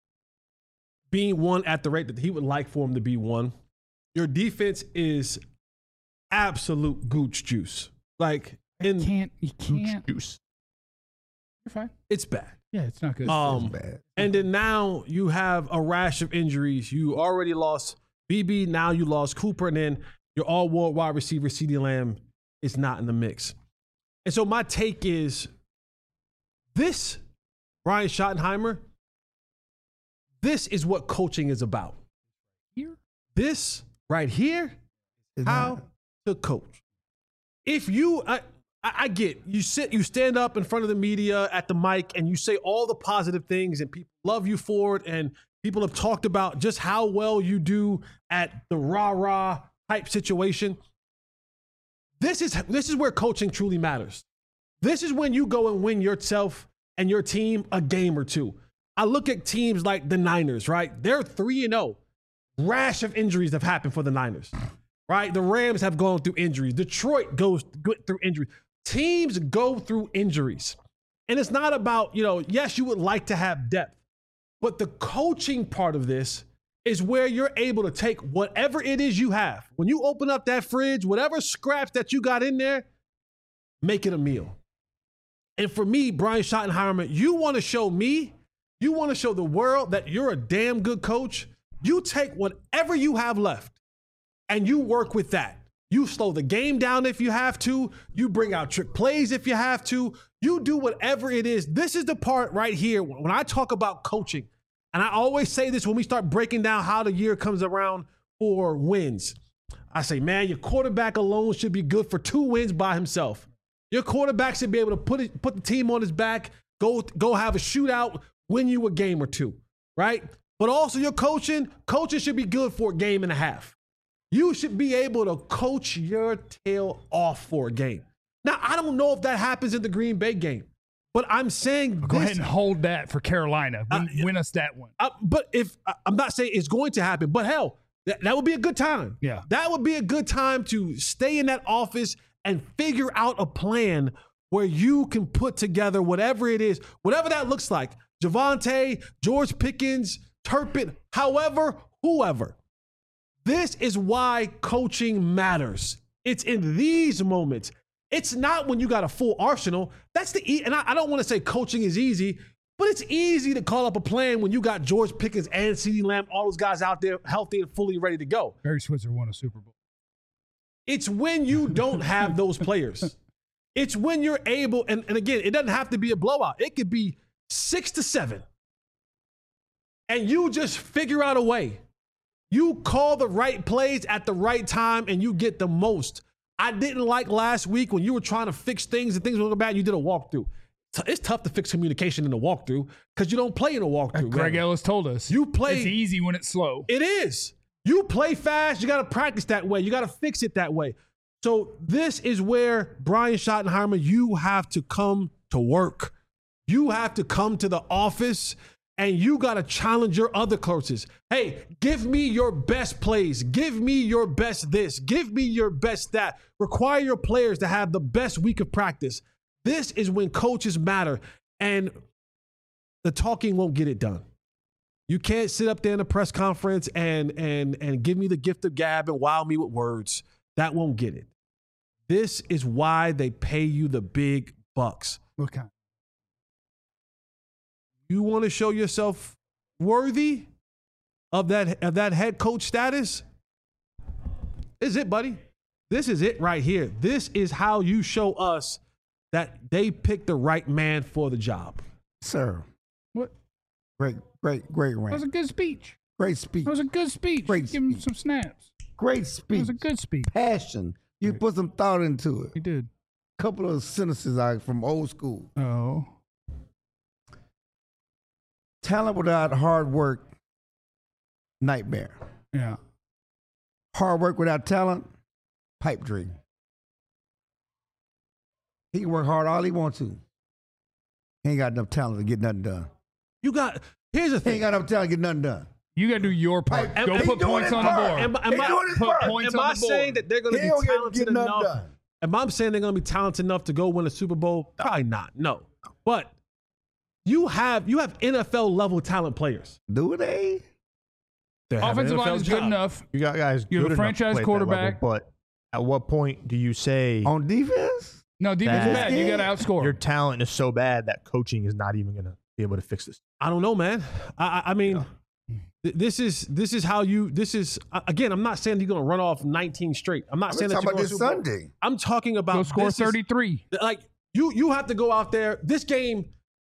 being won at the rate that he would like for them to be won. Your defense is absolute gooch juice. Like, You can't. Juice. You're fine. it's bad. Yeah, it's not good. It's bad. And then now you have a rash of injuries. You already lost BB. Now you lost Cooper. And then your all-world wide receiver, CeeDee Lamb, is not in the mix. And so my take is this, Brian Schottenheimer, this is what coaching is about. Here? This right here, how to coach. If you, I get, you stand up in front of the media at the mic and you say all the positive things and people love you for it. And people have talked about just how well you do at the rah-rah type situation. This is where coaching truly matters. This is when you go and win yourself and your team a game or two. I look at teams like the Niners, right? They're 3-0. Rash of injuries have happened for the Niners, right? The Rams have gone through injuries. Detroit goes through injuries. Teams go through injuries. And it's not about, yes, you would like to have depth, but the coaching part of this is where you're able to take whatever it is you have. When you open up that fridge, whatever scraps that you got in there, make it a meal. And for me, Brian Schottenheimer, you want to show me, you want to show the world that you're a damn good coach. You take whatever you have left and you work with that. You slow the game down if you have to. You bring out trick plays if you have to. You do whatever it is. This is the part right here when I talk about coaching. And I always say this when we start breaking down how the year comes around for wins. I say, man, your quarterback alone should be good for 2 wins by himself. Your quarterback should be able to put the team on his back, go have a shootout, win you a game or 2, right? But also your coaching should be good for a game and a half. You should be able to coach your tail off for a game. Now, I don't know if that happens in the Green Bay game. But I'm saying Go ahead and hold that for Carolina. Win us that one. But if I'm not saying it's going to happen, but hell, that would be a good time. Yeah. That would be a good time to stay in that office and figure out a plan where you can put together whatever it is, whatever that looks like. Javonte, George Pickens, Turpin, however, whoever. This is why coaching matters. It's in these moments. It's not when you got a full arsenal. That's and I don't want to say coaching is easy, but it's easy to call up a plan when you got George Pickens and CeeDee Lamb, all those guys out there healthy and fully ready to go. Barry Switzer won a Super Bowl. It's when you don't have those players. It's when you're able, and again, it doesn't have to be a blowout. It could be 6-7. And you just figure out a way. You call the right plays at the right time and you get the most. I didn't like last week when you were trying to fix things and things were going bad and you did a walkthrough. It's tough to fix communication in a walkthrough because you don't play in a walkthrough. Greg Ellis told us. You play. It's easy when it's slow. It is. You play fast. You got to practice that way. You got to fix it that way. So this is where Brian Schottenheimer, you have to come to work. You have to come to the office and you got to challenge your other coaches. Hey, give me your best plays. Give me your best this. Give me your best that. Require your players to have the best week of practice. This is when coaches matter, and the talking won't get it done. You can't sit up there in a press conference and give me the gift of gab and wow me with words. That won't get it. This is why they pay you the big bucks. What kind? You want to show yourself worthy of that head coach status? This is it, buddy. This is it right here. This is how you show us that they picked the right man for the job. Sir. What? Great That was rant. a good speech. Great speech. That was a good speech. Great Give him speech. some snaps. Great That speech. was a good speech. Passion. You put some thought into it. He did. Couple of sentences out from old school. Oh. Talent without hard work, nightmare. Yeah. Hard work without talent, pipe dream. He can work hard all he wants to. He ain't got enough talent to get nothing done. Here's the He ain't thing. got enough talent to get nothing done. You got to do your part. Hey, Go he put doing points his on the part. board. Am He doing his Put part. points I on the board. saying that they're going to He be don't talented get nothing enough? done. Am I saying they're going to be talented enough to go win a Super Bowl? Probably not. No. But you have NFL level talent players. Do they? They have Offensive NFL line is good job. enough. You got guys. You have good a enough to franchise play at that quarterback. level, but at what point do you say On defense? No, defense is That- bad. You got to outscore. your talent is so bad that coaching is not even going to be able to fix this? I don't know, man. I mean, this is how you. This is again. I'm not saying you're going to run off 19 straight. I'm not I'm saying that talking you're about going this to Super Bowl. Sunday. I'm talking about Go score this is- 33. like you have to go out there. This game,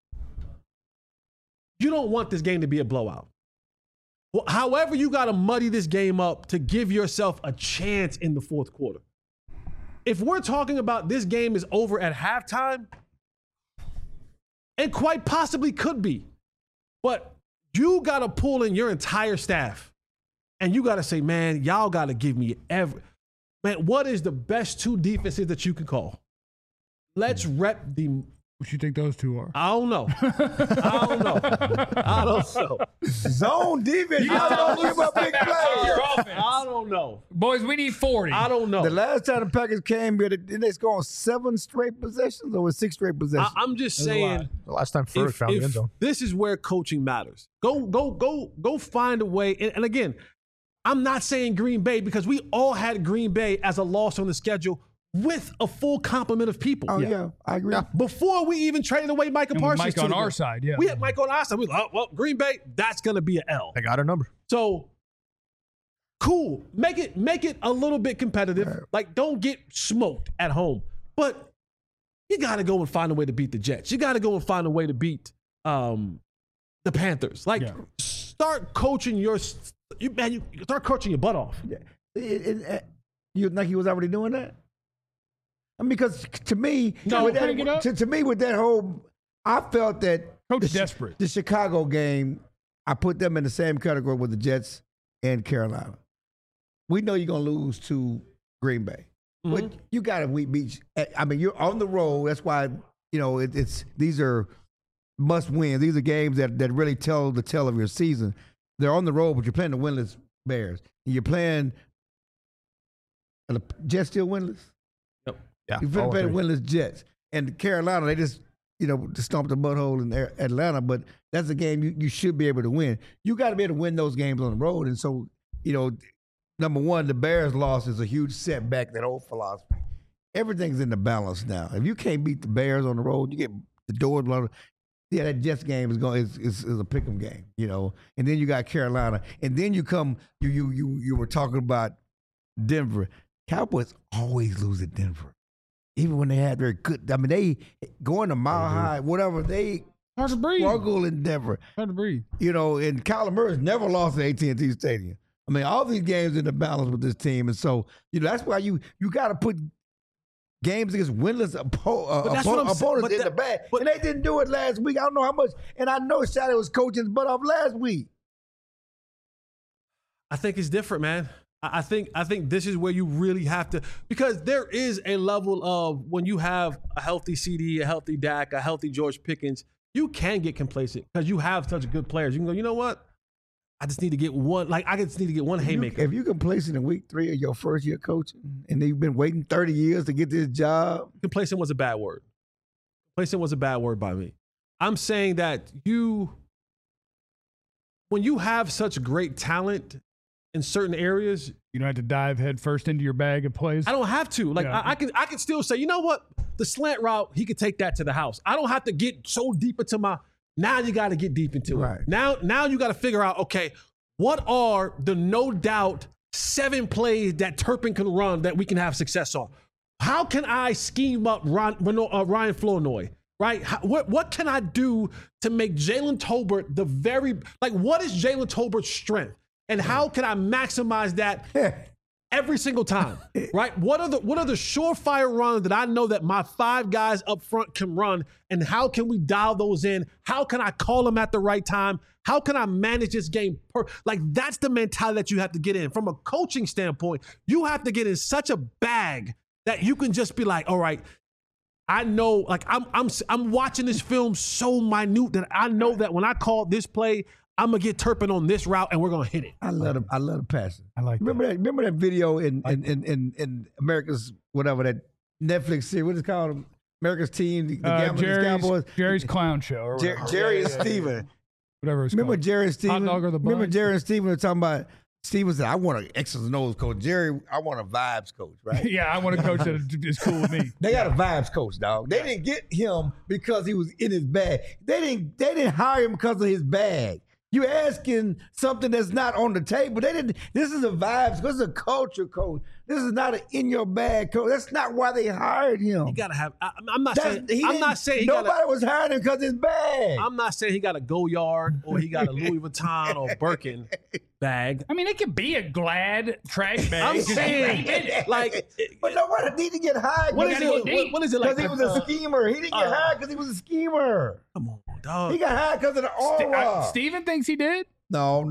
you don't want this game to be a blowout. Well, however, you got to muddy this game up to give yourself a chance in the fourth quarter. If we're talking about this game is over at halftime, and quite possibly could be, but you got to pull in your entire staff and you got to say, man, y'all got to give me man, what is the best two defenses that you can call? Let's rep the. What you think those two are? I don't know. I don't know. Zone defense. Y'all don't give up big plays. I don't know. Boys, we need 40. I don't know. The last time the Packers came here, didn't they score on 7 straight possessions or was 6 straight possessions? I'm just saying. The last time Ferg found the end zone. This is where coaching matters. Go find a way. And again, I'm not saying Green Bay because we all had Green Bay as a loss on the schedule with a full complement of people. Oh, yeah. I agree. Before we even traded away Micah And with Parsons. Mike to on the our Bills. side, yeah. We had Mike on our side. We was like, oh, well, Green Bay, that's going to be an L. I got her number. So cool. Make it a little bit competitive. Right. Like, don't get smoked at home. But you got to go and find a way to beat the Jets. You got to go and find a way to beat the Panthers. Like, start coaching you start coaching your butt off. You think he was already doing that? I mean, because to me, No, with hang it up. to me, with that whole, I felt that Coach desperate. The Chicago game, I put them in the same category with the Jets and Carolina. We know you're gonna lose to Green Bay, but you got to beat. I mean, you're on the road. That's why these are must win. These are games that really tell the tale of your season. They're on the road, but you're playing the winless Bears. And you're playing the Jets still winless? Yep. Yeah. You're playing the winless Jets. And Carolina, they just stomped the butthole in Atlanta, but that's a game you should be able to win. You got to be able to win those games on the road. And so, number one, the Bears loss is a huge setback, that old philosophy. Everything's in the balance now. If you can't beat the Bears on the road, you get the doors blown. Yeah, that Jets game is a pick'em game, And then you got Carolina, and then you were talking about Denver. Cowboys always lose at Denver, even when they had very good. I mean, they going to Mile High, whatever. They hard to breathe. Struggle in Denver. Hard to breathe. And Kyler Murray's never lost at AT&T Stadium. I mean, all these games in the balance with this team, and so that's why you got to put games against winless opponents in the bag. And they didn't do it last week. I don't know how much. And I know Shady was coaching his butt off last week. I think it's different, man. I think this is where you really have to, because there is a level of when you have a healthy CD, a healthy Dak, a healthy George Pickens, you can get complacent because you have such good players. You can go, you know what? I just need to get one. I just need to get one haymaker. If you complacent in week 3 of your first year coaching, and you've been waiting 30 years to get this job, complacent was a bad word. Complacent was a bad word by me. I'm saying that when you have such great talent in certain areas, you don't have to dive head first into your bag of plays. I don't have to. I can still say, you know what? The slant route, he could take that to the house. I don't have to get so deep into my. Now you got to get deep into it. Now you got to figure out, okay, what are the no doubt 7 plays that Turpin can run that we can have success on? How can I scheme up Ryan Flournoy? Right? What can I do to make Jalen Tolbert what is Jalen Tolbert's strength? And how can I maximize that every single time? Right? What are the surefire runs that I know that my 5 guys up front can run? And how can we dial those in? How can I call them at the right time? How can I manage this game? That's the mentality that you have to get in. From a coaching standpoint, you have to get in such a bag that you can just be like, all right, I know, I'm watching this film so minute that I know that when I call this play, I'm gonna get Turpin on this route, and we're gonna hit it. I love the passing. I like remember that. Remember that video in America's whatever that Netflix series. What is it called? America's Team, the Cowboys. Jerry's Clown Show. Or Jerry and Steven. Whatever it's remember called. Jerry and Steven. Hot dog or the bun? Remember Jerry and Steven were talking about. Steven said, "I want an X's and O's coach." Jerry, I want a vibes coach. Right? Yeah, I want a coach that is cool with me. They got a vibes coach, dog. They didn't get him because he was in his bag. They didn't hire him because of his bag. You're asking something that's not on the table. This is a vibes. This is a culture coach. This is not an in your bag coach. That's not why they hired him. He gotta have. I'm not saying. Nobody was hiring him because of his bag. I'm not saying he got a Goyard or he got a Louis Vuitton or Birkin bag. I mean, it could be a Glad trash bag. I'm saying, but nobody need to get hired. What is it? Because he was a schemer. He didn't get hired because he was a schemer. Come on, dog. He got hired because of the aura. Steven thinks he did? No.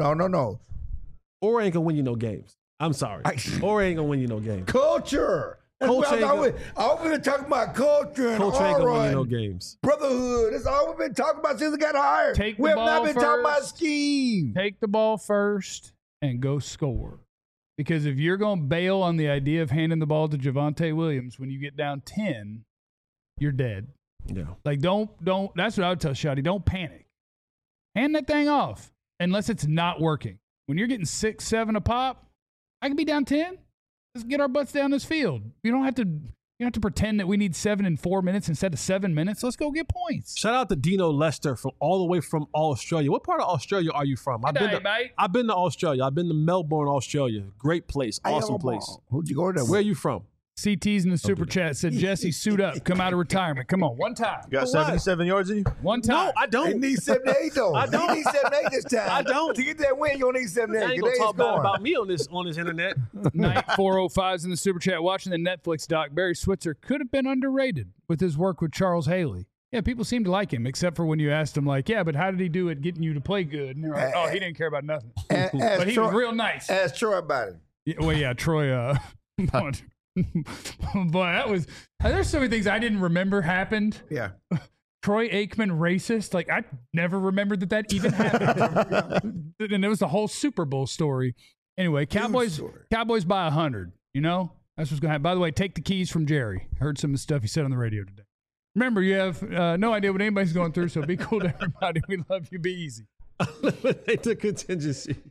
Or ain't gonna win you no games. I'm sorry. Or ain't gonna win you no games. Culture. I've been talking about culture and Culture ain't gonna win you no games. Brotherhood. That's all we've been talking about since we got hired. We have not been talking about scheme. Take the ball first and go score. Because if you're going to bail on the idea of handing the ball to Javonte Williams when you get down 10, you're dead. Yeah. Don't. That's what I would tell Shotty. Don't panic. Hand that thing off unless it's not working. When you're getting 6, 7 a pop, I can be down 10. Let's get our butts down this field. You don't have to pretend that we need 7 in 4 minutes instead of 7 minutes. Let's go get points. Shout out to Dino Lester from all the way from Australia. What part of Australia are you from? I've been to Australia. I've been to Melbourne, Australia. Great place. Awesome place. Who'd you go to? Where are you from? CT's in the super chat said, Jesse, suit up. Come out of retirement. Come on, one time. You got 77 yards in you? One time. No, I don't. He needs 78, though. I don't. He needs 78 this time. I don't. To get that win, you don't need 78. I ain't going to talk bad about me on this internet. Night 405's in the super chat. Watching the Netflix doc, Barry Switzer could have been underrated with his work with Charles Haley. Yeah, people seem to like him, except for when you asked him, but how did he do it getting you to play good? And they're like, he didn't care about nothing. But he was real nice. Ask Troy about it. Yeah, Troy Boy, there's so many things I didn't remember happened. Yeah. Troy Aikman racist. Like, I never remembered that even happened. And it was the whole Super Bowl story. Anyway, Cowboys by 100. You know, that's what's going to happen. By the way, take the keys from Jerry. Heard some of the stuff he said on the radio today. Remember, you have no idea what anybody's going through, so be cool to everybody. We love you. Be easy. Eliminate the contingency.